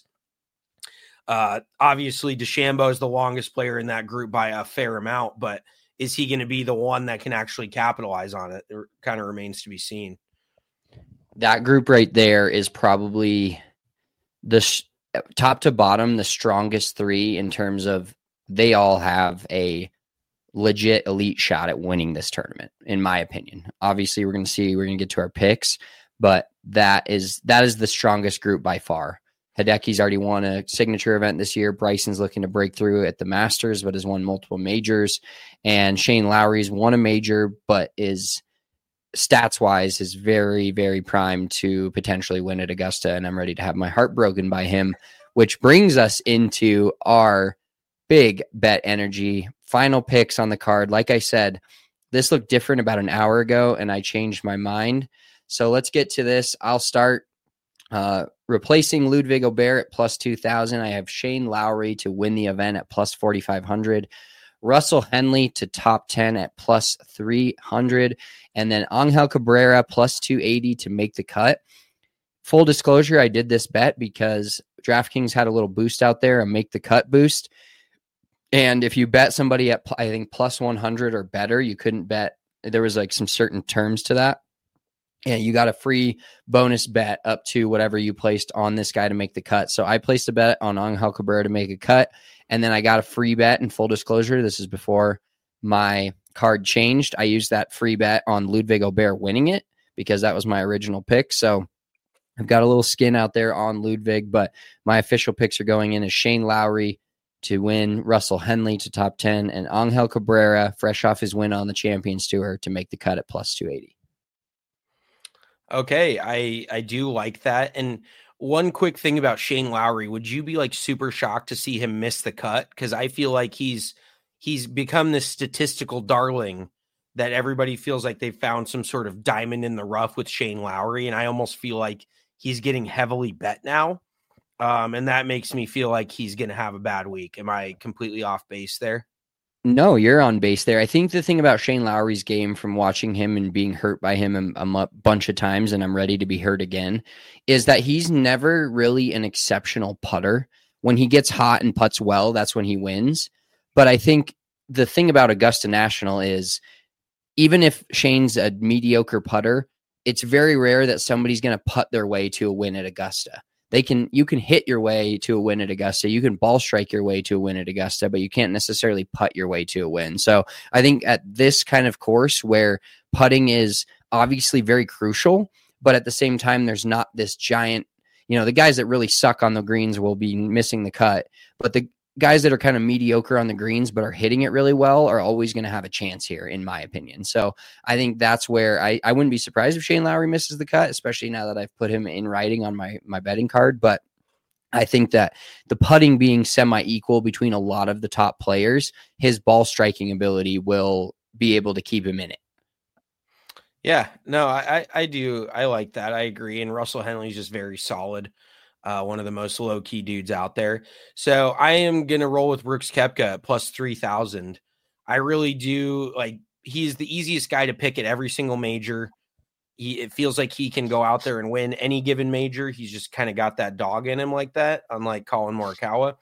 uh, obviously DeChambeau is the longest player in that group by a fair amount. But is he going to be the one that can actually capitalize on it? It kind of remains to be seen. That group right there is probably the sh- top to bottom, the strongest three in terms of they all have a legit elite shot at winning this tournament, in my opinion. Obviously, we're going to see, we're going to get to our picks, but that is that is the strongest group by far. Hideki's already won a signature event this year. Bryson's looking to break through at the Masters, but has won multiple majors. And Shane Lowry's won a major, but is stats-wise is very, very primed to potentially win at Augusta, and I'm ready to have my heart broken by him, which brings us into our big bet energy. Final picks on the card. Like I said, this looked different about an hour ago, and I changed my mind. So let's get to this. I'll start uh, replacing Ludwig Aubert at plus two thousand. I have Shane Lowry to win the event at plus forty-five hundred. Russell Henley to top ten at plus three hundred. And then Angel Cabrera plus two eighty to make the cut. Full disclosure, I did this bet because DraftKings had a little boost out there, a make the cut boost. And if you bet somebody at, I think, plus one hundred or better, you couldn't bet. There was like some certain terms to that. And you got a free bonus bet up to whatever you placed on this guy to make the cut. So I placed a bet on Angel Cabrera to make a cut. And then I got a free bet, in full disclosure. This is before my card changed. I used that free bet on Ludwig Aubert winning it because that was my original pick. So I've got a little skin out there on Ludwig, but my official picks are going in as Shane Lowry to win, Russell Henley to top ten, and Angel Cabrera, fresh off his win on the Champions Tour, to make the cut at plus two eighty. Okay, I I do like that. And one quick thing about Shane Lowry, would you be like super shocked to see him miss the cut? Because I feel like he's he's become this statistical darling that everybody feels like they've found some sort of diamond in the rough with Shane Lowry, and I almost feel like he's getting heavily bet now, um, and that makes me feel like he's going to have a bad week. Am I completely off base there? No, you're on base there. I think the thing about Shane Lowry's game, from watching him and being hurt by him a, a bunch of times, and I'm ready to be hurt again, is that he's never really an exceptional putter. When he gets hot and putts well, that's when he wins. But I think the thing about Augusta National is, even if Shane's a mediocre putter, it's very rare that somebody's going to putt their way to a win at Augusta. They can, you can hit your way to a win at Augusta. You can ball strike your way to a win at Augusta, but you can't necessarily putt your way to a win. So I think at this kind of course where putting is obviously very crucial, but at the same time, there's not this giant, you know, the guys that really suck on the greens will be missing the cut, but the guys that are kind of mediocre on the greens but are hitting it really well are always going to have a chance here, in my opinion. So I think that's where I, I wouldn't be surprised if Shane Lowry misses the cut, especially now that I've put him in writing on my, my betting card. But I think that the putting being semi-equal between a lot of the top players, his ball striking ability will be able to keep him in it. Yeah, no, I, I do. I like that. I agree. And Russell Henley's just very solid. Uh, one of the most low-key dudes out there. So I am going to roll with Brooks Koepka at plus three thousand. I really do. Like, he's the easiest guy to pick at every single major. He, it feels like he can go out there and win any given major. He's just kind of got that dog in him like that, unlike Colin Morikawa.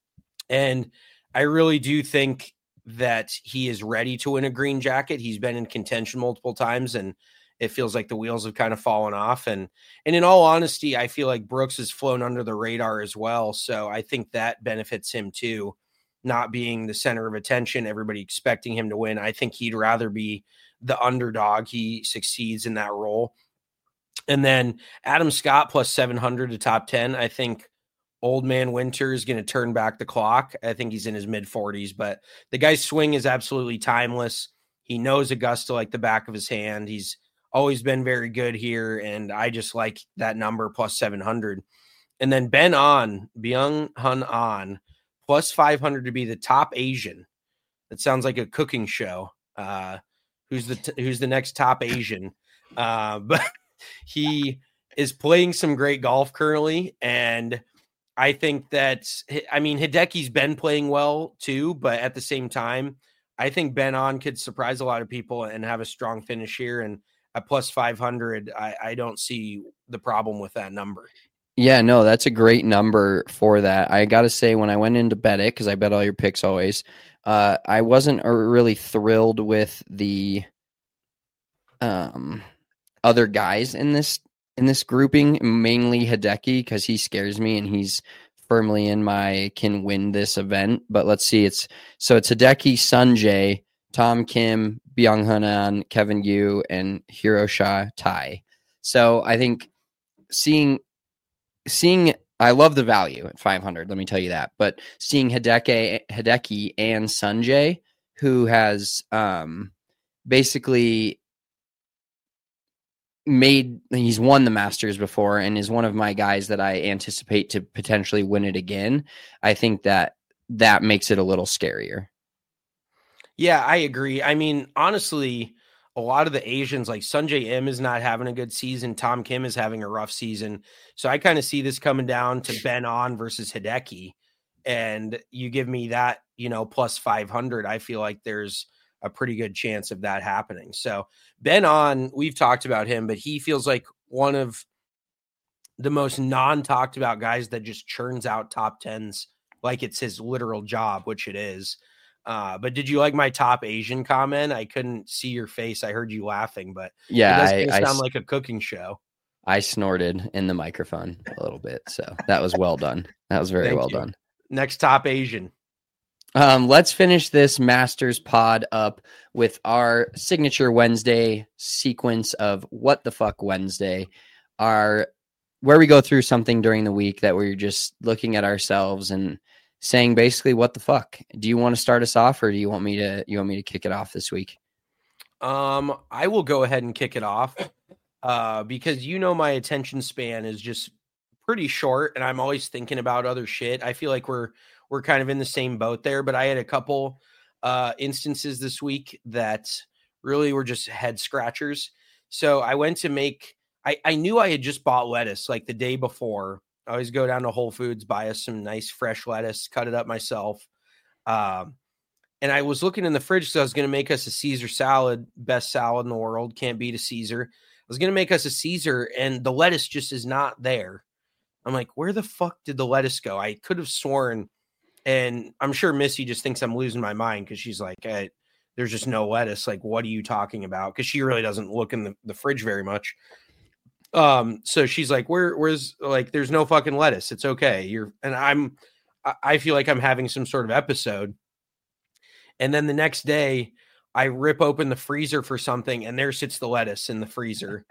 And I really do think that he is ready to win a green jacket. He's been in contention multiple times, and it feels like the wheels have kind of fallen off. And, and in all honesty, I feel like Brooks has flown under the radar as well. So I think that benefits him too, not being the center of attention, everybody expecting him to win. I think he'd rather be the underdog. He succeeds in that role. And then Adam Scott plus seven hundred to top ten. I think old man Winter is going to turn back the clock. I think he's in his mid forties, but the guy's swing is absolutely timeless. He knows Augusta like the back of his hand. He's always been very good here, and I just like that number plus seven hundred. And then Ben An, Byung-Hun An, plus five hundred to be the top Asian. That sounds like a cooking show. Uh, who's the t- who's the next top Asian? Uh, but he is playing some great golf currently, and I think that, I mean, Hideki's been playing well too, but at the same time, I think Ben An could surprise a lot of people and have a strong finish here. And at plus five hundred, I, I don't see the problem with that number. Yeah, no, that's a great number for that. I got to say, when I went in to bet it, because I bet all your picks always, uh, I wasn't really thrilled with the um, other guys in this in this grouping, mainly Hideki, because he scares me and he's firmly in my can win this event, but let's see. It's so it's Hideki, Sanjay, Tom Kim, Byung Hunan, Kevin Yu, and Hiroshi Tai. So I think seeing seeing I love the value at five hundred. Let me tell you that. But seeing Hideki, Hideki and Sanjay, who has um, basically made he's won the Masters before and is one of my guys that I anticipate to potentially win it again. I think that that makes it a little scarier. Yeah, I agree. I mean, honestly, a lot of the Asians, like Sanjay M is not having a good season. Tom Kim is having a rough season. So I kind of see this coming down to Ben On versus Hideki. And you give me that, you know, plus five hundred. I feel like there's a pretty good chance of that happening. So Ben On, we've talked about him, but he feels like one of the most non-talked about guys that just churns out top tens like it's his literal job, which it is. Uh, but did you like my top Asian comment? I couldn't see your face. I heard you laughing, but yeah, it does I, sound I, like a cooking show. I snorted in the microphone a little bit. So that was well done. That was very Thank well you. done. Next top Asian. Um, let's finish this Masters pod up with our signature Wednesday sequence of What the Fuck Wednesday, our where we go through something during the week that we're just looking at ourselves and saying basically what the fuck. Do you want to start us off, or do you want me to you want me to kick it off this week? Um, I will go ahead and kick it off uh, because you know my attention span is just pretty short, and I'm always thinking about other shit. I feel like we're we're kind of in the same boat there, but I had a couple uh, instances this week that really were just head scratchers. So I went to make. I, I knew I had just bought lettuce like the day before. I always go down to Whole Foods, buy us some nice fresh lettuce, cut it up myself. Um, and I was looking in the fridge because I was going to make us a Caesar salad, best salad in the world. Can't beat a Caesar. I was going to make us a Caesar, and the lettuce just is not there. I'm like, where the fuck did the lettuce go? I could have sworn, and I'm sure Missy just thinks I'm losing my mind because she's like, hey, there's just no lettuce. Like, what are you talking about? Because she really doesn't look in the, the fridge very much. Um, so she's like, where, where's like, there's no fucking lettuce. It's okay. You're, and I'm, I feel like I'm having some sort of episode. And then the next day I rip open the freezer for something and there sits the lettuce in the freezer.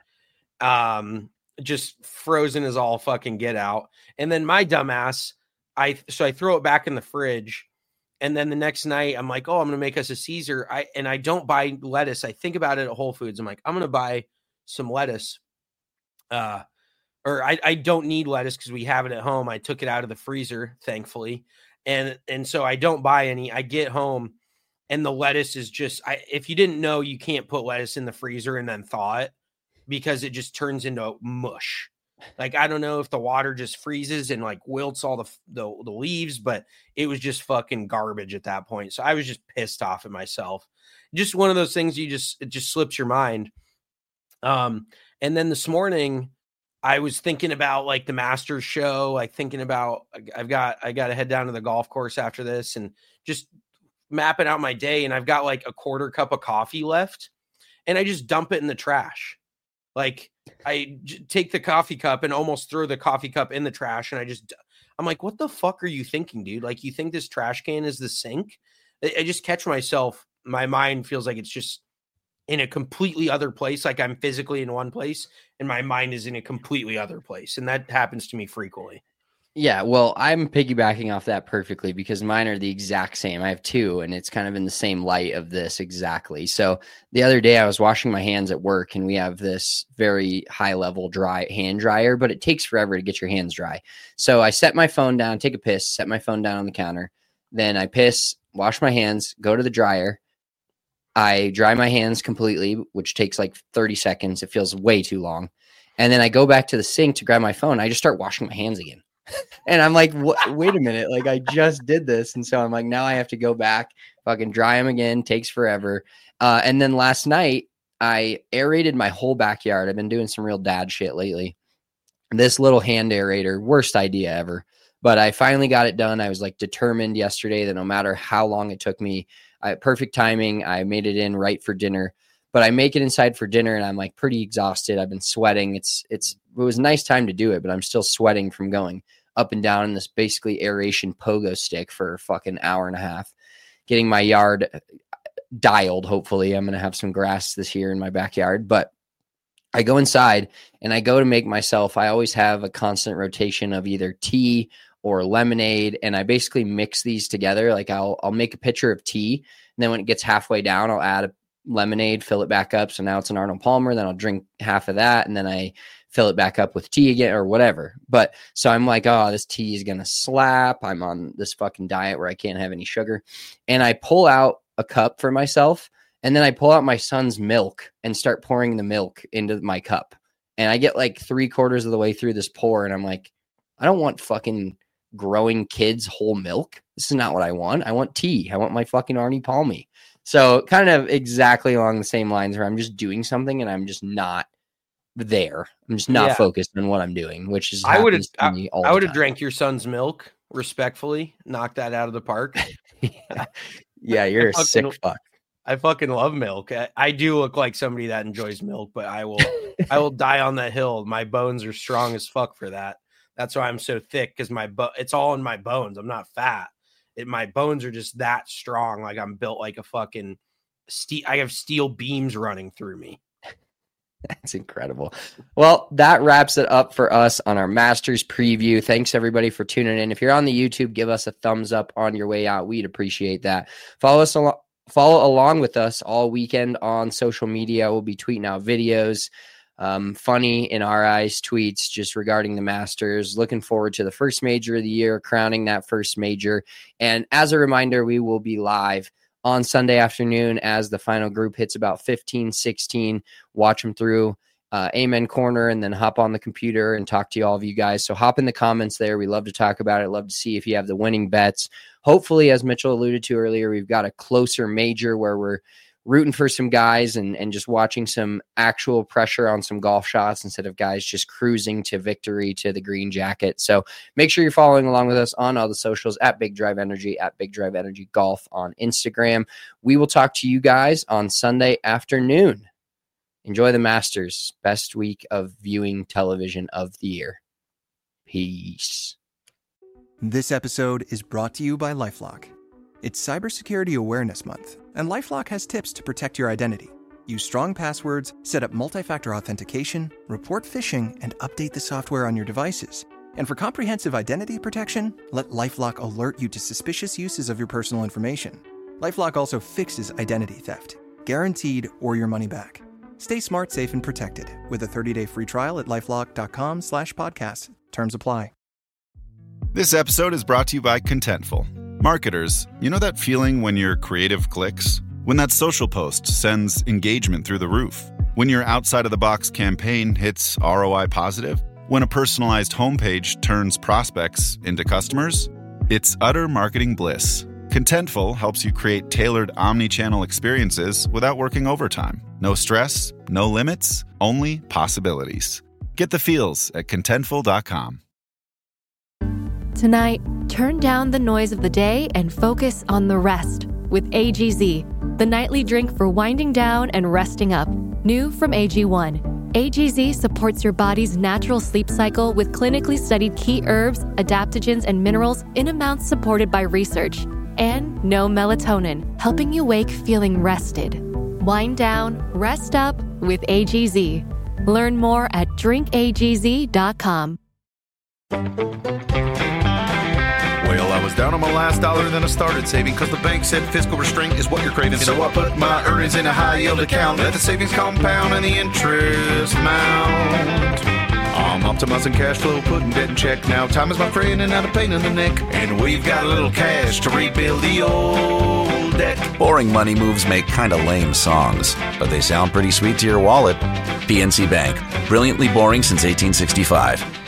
Um, just frozen as all fucking get out. And then my dumbass, I, so I throw it back in the fridge. And then the next night I'm like, oh, I'm going to make us a Caesar. I, and I don't buy lettuce. I think about it at Whole Foods. I'm like, I'm going to buy some lettuce. Uh, or I, I don't need lettuce because we have it at home. I took it out of the freezer, thankfully. And, and so I don't buy any. I get home and the lettuce is just, I, if you didn't know, you can't put lettuce in the freezer and then thaw it because it just turns into mush. Like, I don't know if the water just freezes and like wilts all the, the, the leaves, but it was just fucking garbage at that point. So I was just pissed off at myself. Just one of those things you just, it just slips your mind. Um, and then this morning I was thinking about like the Masters show, like thinking about, I've got, I got to head down to the golf course after this and just mapping out my day. And I've got like a quarter cup of coffee left and I just dump it in the trash. Like I j- take the coffee cup and almost throw the coffee cup in the trash. And I just, I'm like, what the fuck are you thinking, dude? Like, you think this trash can is the sink? I, I just catch myself. My mind feels like it's just in a completely other place. Like I'm physically in one place and my mind is in a completely other place. And that happens to me frequently. Yeah, well, I'm piggybacking off that perfectly because mine are the exact same. I have two, and it's kind of in the same light of this exactly. So the other day I was washing my hands at work, and we have this very high-level dry hand dryer, but it takes forever to get your hands dry. So I set my phone down, take a piss, set my phone down on the counter. Then I piss, wash my hands, go to the dryer. I dry my hands completely, which takes like thirty seconds. It feels way too long. And then I go back to the sink to grab my phone. I just start washing my hands again. And I'm like, what? Wait a minute. Like, I just did this. And so I'm like, now I have to go back, fucking dry them again. Takes forever. Uh, and then last night, I aerated my whole backyard. I've been doing some real dad shit lately. This little hand aerator, worst idea ever. But I finally got it done. I was like determined yesterday that no matter how long it took me, I, perfect timing. I made it in right for dinner. But I make it inside for dinner and I'm like pretty exhausted. I've been sweating. It's, it's, it was a nice time to do it, but I'm still sweating from going up and down in this basically aeration pogo stick for a fucking hour and a half, getting my yard dialed. Hopefully I'm going to have some grass this year in my backyard, but I go inside and I go to make myself, I always have a constant rotation of either tea or lemonade. And I basically mix these together. Like I'll, I'll make a pitcher of tea. And then when it gets halfway down, I'll add a lemonade, fill it back up. So now it's an Arnold Palmer. Then I'll drink half of that. And then I fill it back up with tea again or whatever. But so I'm like, oh, this tea is going to slap. I'm on this fucking diet where I can't have any sugar. And I pull out a cup for myself. And then I pull out my son's milk and start pouring the milk into my cup. And I get like three quarters of the way through this pour. And I'm like, I don't want fucking growing kids whole milk. This is not what I want. I want tea. I want my fucking Arnie Palmy. So kind of exactly along the same lines where I'm just doing something and I'm just not there. I'm just not yeah. focused on what I'm doing, which is, I would have, I, I would have drank your son's milk respectfully, knock that out of the park. yeah. yeah. You're a fucking, sick fuck. I fucking love milk. I, I do look like somebody that enjoys milk, but I will, I will die on that hill. My bones are strong as fuck for that. That's why I'm so thick. Cause my, bo- it's all in my bones. I'm not fat. It, my bones are just that strong. Like I'm built like a fucking steel. I have steel beams running through me. That's incredible. Well, that wraps it up for us on our Masters preview. Thanks everybody for tuning in. If you're on the YouTube, give us a thumbs up on your way out. We'd appreciate that. Follow us along. Follow along with us all weekend on social media. We'll be tweeting out videos, um, funny in our eyes tweets just regarding the Masters. Looking forward to the first major of the year, crowning that first major. And as a reminder, we will be live on Sunday afternoon as the final group hits about fifteen, sixteen. Watch them through uh, Amen Corner and then hop on the computer and talk to all of you guys. So hop in the comments there. We love to talk about it. Love to see if you have the winning bets. Hopefully, as Mitchell alluded to earlier, we've got a closer major where we're rooting for some guys and, and just watching some actual pressure on some golf shots instead of guys just cruising to victory to the green jacket. So make sure you're following along with us on all the socials at Big Drive Energy, at Big Drive Energy Golf on Instagram. We will talk to you guys on Sunday afternoon. Enjoy the Masters. Best week of viewing television of the year. Peace. This episode is brought to you by LifeLock. It's Cybersecurity Awareness Month, and LifeLock has tips to protect your identity. Use strong passwords, set up multi-factor authentication, report phishing, and update the software on your devices. And for comprehensive identity protection, let LifeLock alert you to suspicious uses of your personal information. LifeLock also fixes identity theft, guaranteed or your money back. Stay smart, safe, and protected with a thirty-day free trial at LifeLock.com slash podcast. Terms apply. This episode is brought to you by Contentful. Marketers, you know that feeling when your creative clicks? When that social post sends engagement through the roof? When your outside-of-the-box campaign hits R O I positive? When a personalized homepage turns prospects into customers? It's utter marketing bliss. Contentful helps you create tailored omni-channel experiences without working overtime. No stress, no limits, only possibilities. Get the feels at contentful dot com. Tonight, turn down the noise of the day and focus on the rest with A G Z, the nightly drink for winding down and resting up. New from A G one. A G Z supports your body's natural sleep cycle with clinically studied key herbs, adaptogens, and minerals in amounts supported by research. And no melatonin, helping you wake feeling rested. Wind down, rest up with A G Z. Learn more at drink a g z dot com. Well, I was down on my last dollar, then I started saving because the bank said fiscal restraint is what you're craving. So I put my earnings in a high yield account. Let the savings compound and the interest mount. I'm optimizing cash flow, putting debt in check. Now time is my friend and not a pain in the neck. And we've got a little cash to rebuild the old debt. Boring money moves make kind of lame songs, but they sound pretty sweet to your wallet. P N C Bank, brilliantly boring since eighteen sixty-five.